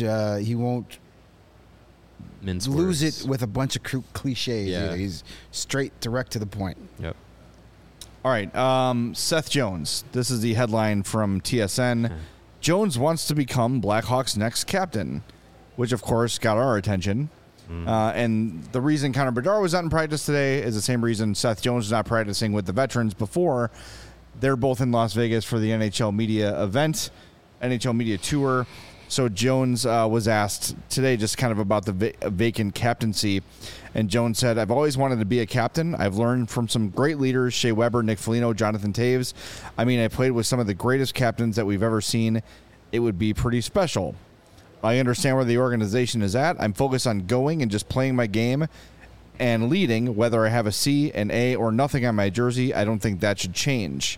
mince lose words. it with a bunch of cliches. Yeah. Either. He's straight, direct to the point. Yep. All right, Seth Jones. This is the headline from TSN. Jones wants to become Blackhawks' next captain, which, of course, got our attention. And the reason Connor Bedard was not in practice today is the same reason Seth Jones was not practicing with the veterans before. They're both in Las Vegas for the NHL Media event, NHL Media Tour. So Jones was asked today just kind of about the vacant captaincy. And Jones said, I've always wanted to be a captain. I've learned from some great leaders, Shea Weber, Nick Foligno, Jonathan Taves. I mean, I played with some of the greatest captains that we've ever seen. It would be pretty special. I understand where the organization is at. I'm focused on going and just playing my game and leading, whether I have a C, an A, or nothing on my jersey. I don't think that should change.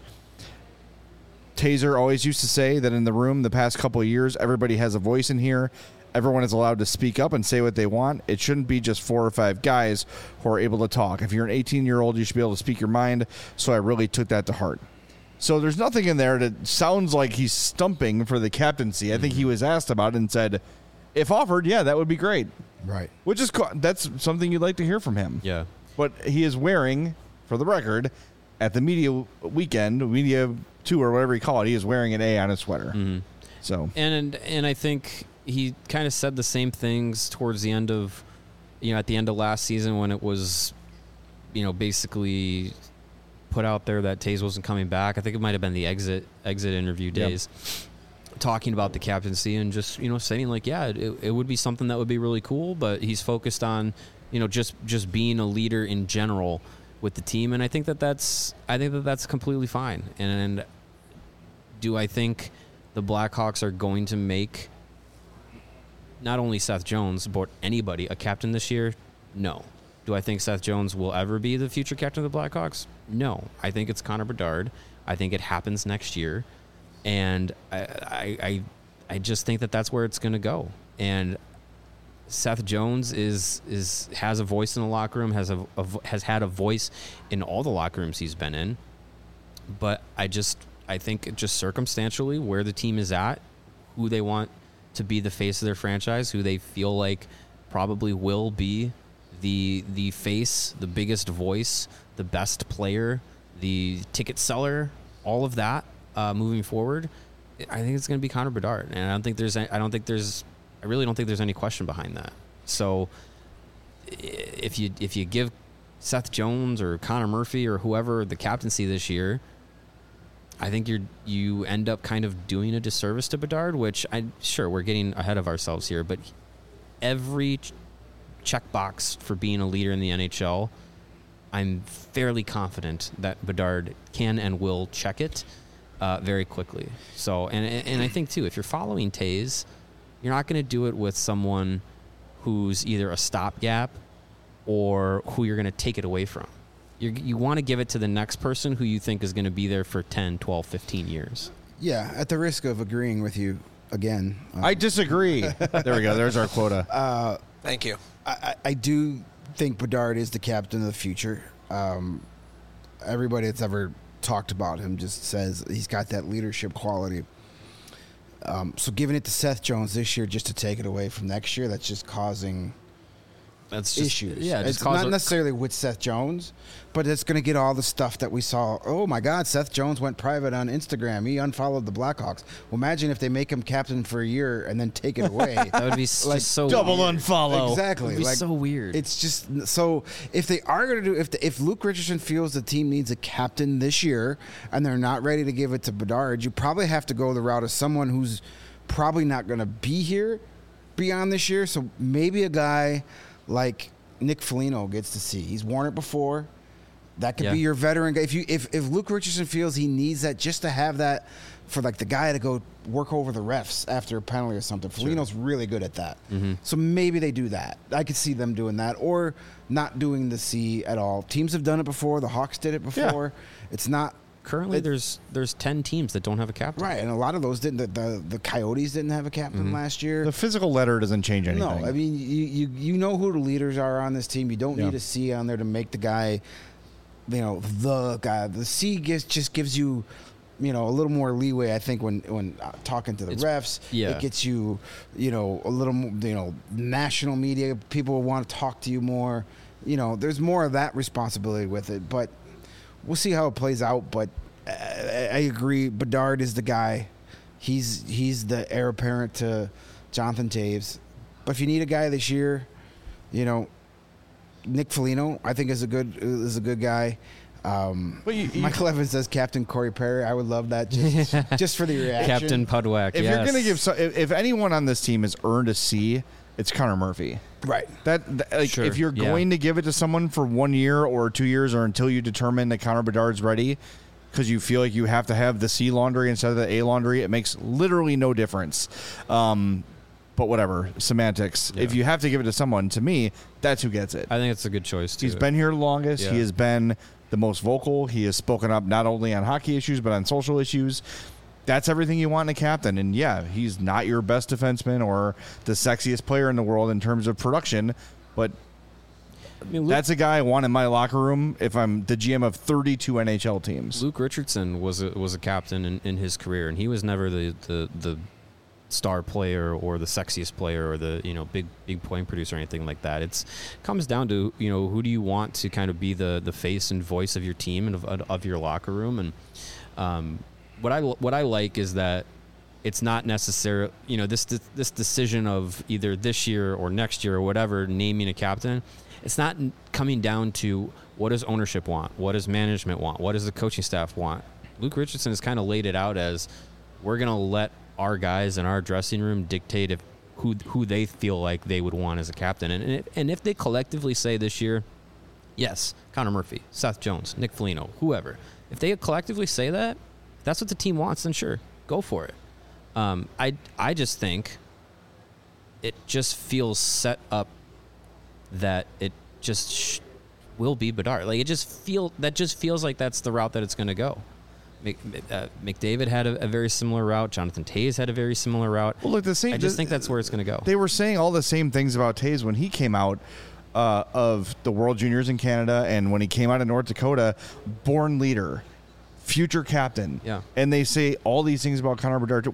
Taser always used to say that in the room the past couple of years, everybody has a voice in here. Everyone is allowed to speak up and say what they want. It shouldn't be just 4 or 5 guys who are able to talk. If you're an 18-year-old, you should be able to speak your mind. So I really took that to heart. So there's nothing in there that sounds like he's stumping for the captaincy. I think he was asked about it and said, if offered, yeah, that would be great. Right. Which is that's something you'd like to hear from him. Yeah. But he is wearing, for the record, at the media weekend, media tour, whatever you call it, he is wearing an A on his sweater. Mm-hmm. So and I think he kind of said the same things towards the end of, at the end of last season when it was, basically put out there that Taze wasn't coming back. I think it might have been the exit interview days, talking about the captaincy and just saying like, yeah, it would be something that would be really cool, but he's focused on just being a leader in general with the team, and I think that's completely fine. And do I think the Blackhawks are going to make not only Seth Jones but anybody a captain this year? No. Do I think Seth Jones will ever be the future captain of the Blackhawks? No. I think it's Connor Bedard. I think it happens next year, and I just think that that's where it's going to go. And Seth Jones has a voice in the locker room, has had a voice in all the locker rooms he's been in. But I think just circumstantially where the team is at, who they want to be the face of their franchise, who they feel like probably will be the face, the biggest voice, the best player, the ticket seller, all of that moving forward, I think it's going to be Connor Bedard, and I really don't think there's any question behind that. So if you give Seth Jones or Connor Murphy or whoever the captaincy this year, I think you end up kind of doing a disservice to Bedard, which we're getting ahead of ourselves here, but every checkbox for being a leader in the NHL, I'm fairly confident that Bedard can and will check it very quickly. So, and I think too, if you're following Taze, you're not going to do it with someone who's either a stopgap or who you're going to take it away from. You want to give it to the next person who you think is going to be there for 10, 12, 15 years. Yeah, at the risk of agreeing with you again. I disagree. There we go. There's our quota. Thank you. I do think Bedard is the captain of the future. Everybody that's ever talked about him just says he's got that leadership quality. So giving it to Seth Jones this year just to take it away from next year, that's just causing issues. Yeah, it's not necessarily with Seth Jones, but it's going to get all the stuff that we saw. Oh my God, Seth Jones went private on Instagram. He unfollowed the Blackhawks. Well, imagine if they make him captain for a year and then take it away. That would be like, just so double weird. Unfollow. Exactly. It would be so weird. It's just so if they are going to do if Luke Richardson feels the team needs a captain this year and they're not ready to give it to Bedard, you probably have to go the route of someone who's probably not going to be here beyond this year. So maybe a guy like Nick Foligno gets to see. He's worn it before. That could be your veteran guy. If Luke Richardson feels he needs that just to have that for like the guy to go work over the refs after a penalty or something. Foligno's really good at that. Mm-hmm. So maybe they do that. I could see them doing that or not doing the C at all. Teams have done it before. The Hawks did it before. Yeah. It's not currently there's 10 teams that don't have a captain. Right, and a lot of those didn't. The Coyotes didn't have a captain last year. The physical letter doesn't change anything. No, I mean you know who the leaders are on this team. You don't need a C on there to make the guy, the guy. The C just gives you, a little more leeway. I think when talking to the refs, it gets you, a little more, national media people will want to talk to you more. There's more of that responsibility with it, but. We'll see how it plays out, but I agree. Bedard is the guy. He's the heir apparent to Jonathan Toews. But if you need a guy this year, Nick Foligno I think is a good guy. Michael Evans says Captain Corey Perry. I would love that just for the reaction. Captain Pudwack. If you're going to give, if anyone on this team has earned a C, it's Connor Murphy. Right. Sure. If you're going to give it to someone for 1 year or 2 years or until you determine that Connor Bedard's ready, because you feel like you have to have the C laundry instead of the A laundry, it makes literally no difference. but whatever, semantics. Yeah. If you have to give it to someone, to me, that's who gets it. I think it's a good choice, too. He's been here the longest. Yeah. He has been the most vocal. He has spoken up not only on hockey issues, but on social issues. That's everything you want in a captain. And, yeah, he's not your best defenseman or the sexiest player in the world in terms of production, but that's a guy I want in my locker room if I'm the GM of 32 NHL teams. Luke Richardson was a captain in his career, and he was never the star player or the sexiest player or the big point producer or anything like that. It comes down to who do you want to kind of be the face and voice of your team and of your locker room. And what I like is that it's not necessarily this decision of either this year or next year or whatever naming a captain. It's not coming down to what does ownership want, what does management want, what does the coaching staff want. Luke Richardson has kind of laid it out as we're going to let our guys in our dressing room dictate who they feel like they would want as a captain. And if they collectively say this year, yes, Connor Murphy, Seth Jones, Nick Foligno, whoever, if they collectively say that, if that's what the team wants, then sure, go for it. I just think it just feels set up that it just will be Bedard. Like it just feels like that's the route that it's going to go. McDavid had a very similar route. Jonathan Toews had a very similar route. Well, look, I just think that's where it's going to go. They were saying all the same things about Toews when he came out of the World Juniors in Canada and when he came out of North Dakota, born leader, future captain. Yeah. And they say all these things about Connor Bedard.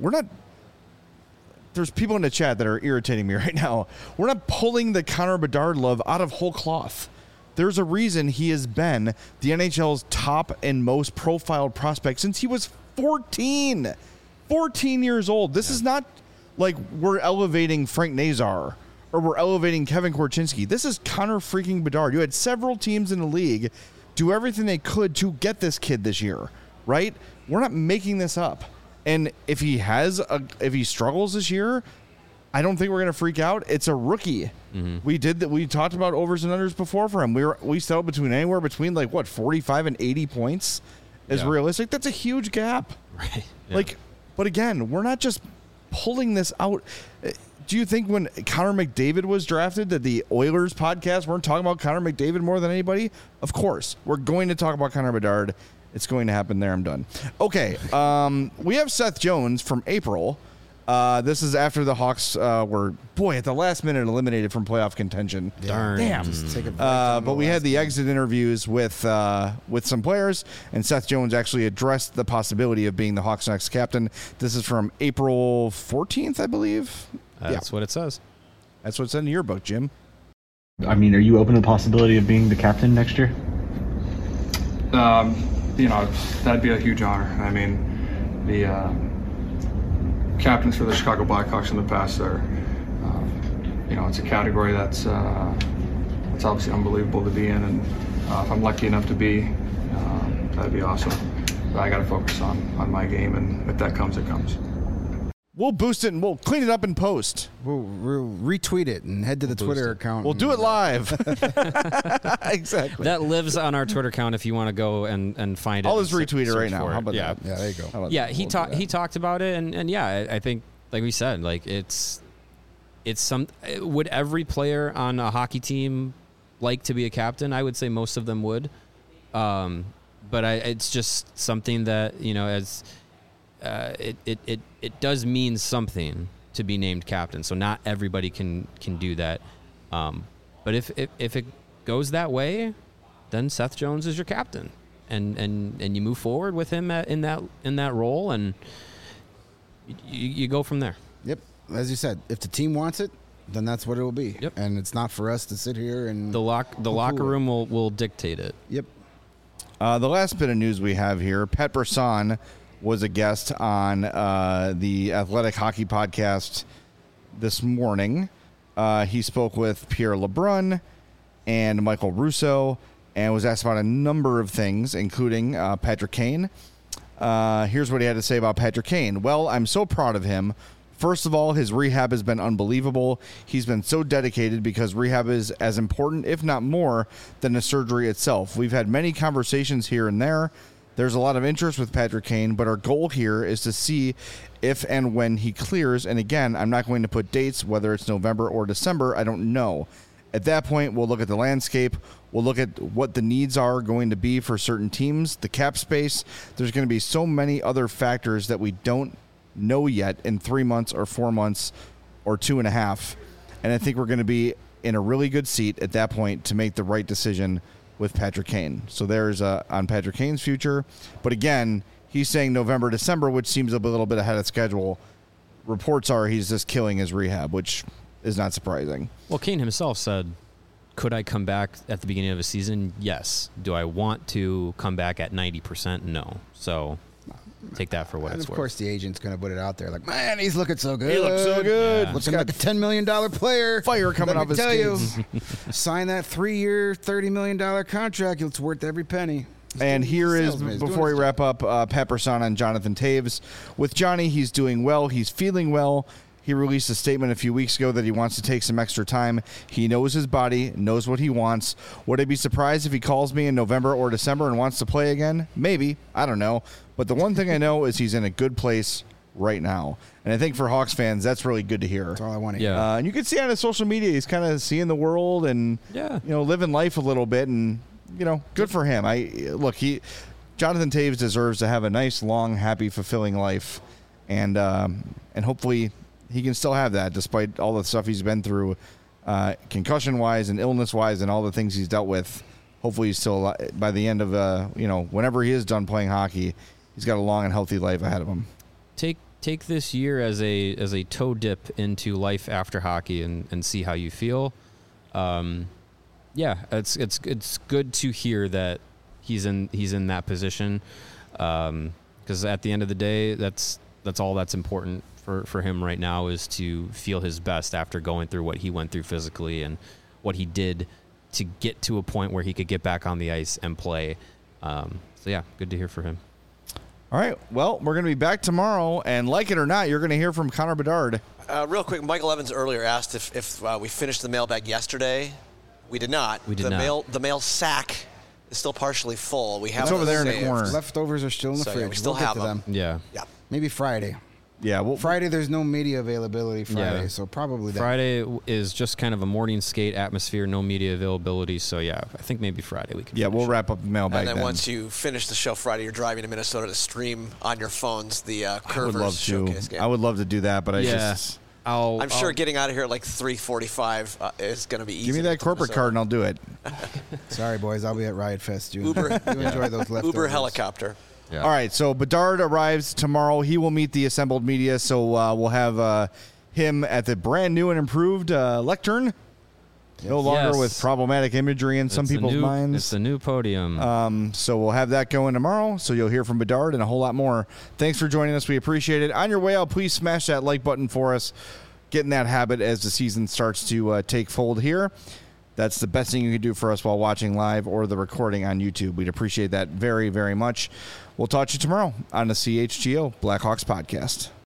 There's people in the chat that are irritating me right now. We're not pulling the Connor Bedard love out of whole cloth. There's a reason he has been the NHL's top and most profiled prospect since he was 14. 14 years old. This is not like we're elevating Frank Nazar or we're elevating Kevin Korchinski. This is Connor freaking Bedard. You had several teams in the league do everything they could to get this kid this year, right? We're not making this up. And if he struggles this year, I don't think we're going to freak out. It's a rookie. Mm-hmm. We talked about overs and unders before for him. We settled anywhere between 45 and 80 points is realistic. That's a huge gap. Right. Yeah. But again, we're not just pulling this out. Do you think when Connor McDavid was drafted that the Oilers podcast weren't talking about Connor McDavid more than anybody? Of course. We're going to talk about Connor Bedard. It's going to happen there. I'm done. Okay. We have Seth Jones from April. This is after the Hawks were, at the last minute eliminated from playoff contention. Darn. Damn. Just take a break But we had the exit interviews with some players, and Seth Jones actually addressed the possibility of being the Hawks' next captain. This is from April 14th, I believe. That's what it says. That's what's in your book, Jim. I mean, are you open to the possibility of being the captain next year? That'd be a huge honor. I mean, the captains for the Chicago Blackhawks in the past are, it's a category that's it's obviously unbelievable to be in, and if I'm lucky enough to be, that'd be awesome. But I got to focus on my game, and if that comes, it comes. We'll boost it and we'll clean it up in post. We'll retweet it and head to the Twitter account. We'll do it live. Exactly. That lives on our Twitter account if you want to go and find it. I'll just retweet it right now. How about that? Yeah, there you go. Yeah, he talked about it, and yeah, I think like we said, like it's would every player on a hockey team like to be a captain? I would say most of them would, but it's just something that as it does mean something to be named captain. So not everybody can do that. But if it goes that way, then Seth Jones is your captain, and you move forward with him in that role, and you go from there. Yep, as you said, if the team wants it, then that's what it will be. Yep. And it's not for us to sit here and the locker room will dictate it. Yep. The last bit of news we have here: Pat Brisson was a guest on the Athletic Hockey Podcast this morning. He spoke with Pierre LeBrun and Michael Russo and was asked about a number of things, including Patrick Kane. Here's what he had to say about Patrick Kane. Well, I'm so proud of him. First of all, his rehab has been unbelievable. He's been so dedicated because rehab is as important, if not more, than the surgery itself. We've had many conversations here and there. There's a lot of interest with Patrick Kane, but our goal here is to see if and when he clears. And again, I'm not going to put dates, whether it's November or December. I don't know. At that point, we'll look at the landscape. We'll look at what the needs are going to be for certain teams, the cap space. There's going to be so many other factors that we don't know yet in 3 months or 4 months or 2.5. And I think we're going to be in a really good seat at that point to make the right decision with Patrick Kane. So there's on Patrick Kane's future. But again, he's saying November, December, which seems a little bit ahead of schedule. Reports are he's just killing his rehab, which is not surprising. Well, Kane himself said, could I come back at the beginning of a season? Yes. Do I want to come back at 90%? No. So take that for what it's worth. Of course, the agent's going to put it out there like, man, he's looking so good. He looks so good. Yeah. Looking like a $10 million player. Fire coming off his skates. Sign that 3-year, $30 million contract. It's worth every penny. And here is, before we wrap up, Pat Brisson on Jonathan Toews. With Johnny, he's doing well. He's feeling well. He released a statement a few weeks ago that he wants to take some extra time. He knows his body, knows what he wants. Would I be surprised if he calls me in November or December and wants to play again? Maybe. I don't know. But the one thing I know is he's in a good place right now. And I think for Hawks fans, that's really good to hear. That's all I want to hear. And you can see on his social media, he's kind of seeing the world and living life a little bit. And, good for him. Jonathan Toews deserves to have a nice, long, happy, fulfilling life. And hopefully he can still have that despite all the stuff he's been through, concussion-wise and illness-wise and all the things he's dealt with. Hopefully he's still, by the end of, whenever he is done playing hockey, he's got a long and healthy life ahead of him. Take this year as a toe dip into life after hockey and see how you feel. It's good to hear that he's in that position, because at the end of the day, that's all that's important for him right now, is to feel his best after going through what he went through physically and what he did to get to a point where he could get back on the ice and play. Good to hear for him. All right, well, we're going to be back tomorrow, and like it or not, you're going to hear from Connor Bedard. Real quick, Michael Evans earlier asked if we finished the mailbag yesterday. We did not. The mail sack is still partially full. It's over there in the corner. Leftovers are still in the fridge. Yeah, we still have them. Yeah. Maybe Friday. Yeah, Friday there's no media availability Friday, so probably that. Friday is just kind of a morning skate atmosphere, no media availability. So I think maybe Friday we can. Yeah, we'll wrap up the mailbag. And then once you finish the show Friday, you're driving to Minnesota to stream on your phones the Curvers Showcase game. I would love to do that, but I'm sure getting out of here at like 3:45 is going to be easy. Give me that corporate card and I'll do it. Sorry, boys, I'll be at Riot Fest. You enjoy those leftovers. Uber helicopter. Yeah. All right, so Bedard arrives tomorrow. He will meet the assembled media, so we'll have him at the brand new and improved lectern. No longer with problematic imagery in some people's minds. It's the new podium. So we'll have that going tomorrow. So you'll hear from Bedard and a whole lot more. Thanks for joining us. We appreciate it. On your way out, please smash that like button for us. Get in that habit as the season starts to take fold here. That's the best thing you can do for us while watching live or the recording on YouTube. We'd appreciate that very, very much. We'll talk to you tomorrow on the CHGO Blackhawks podcast.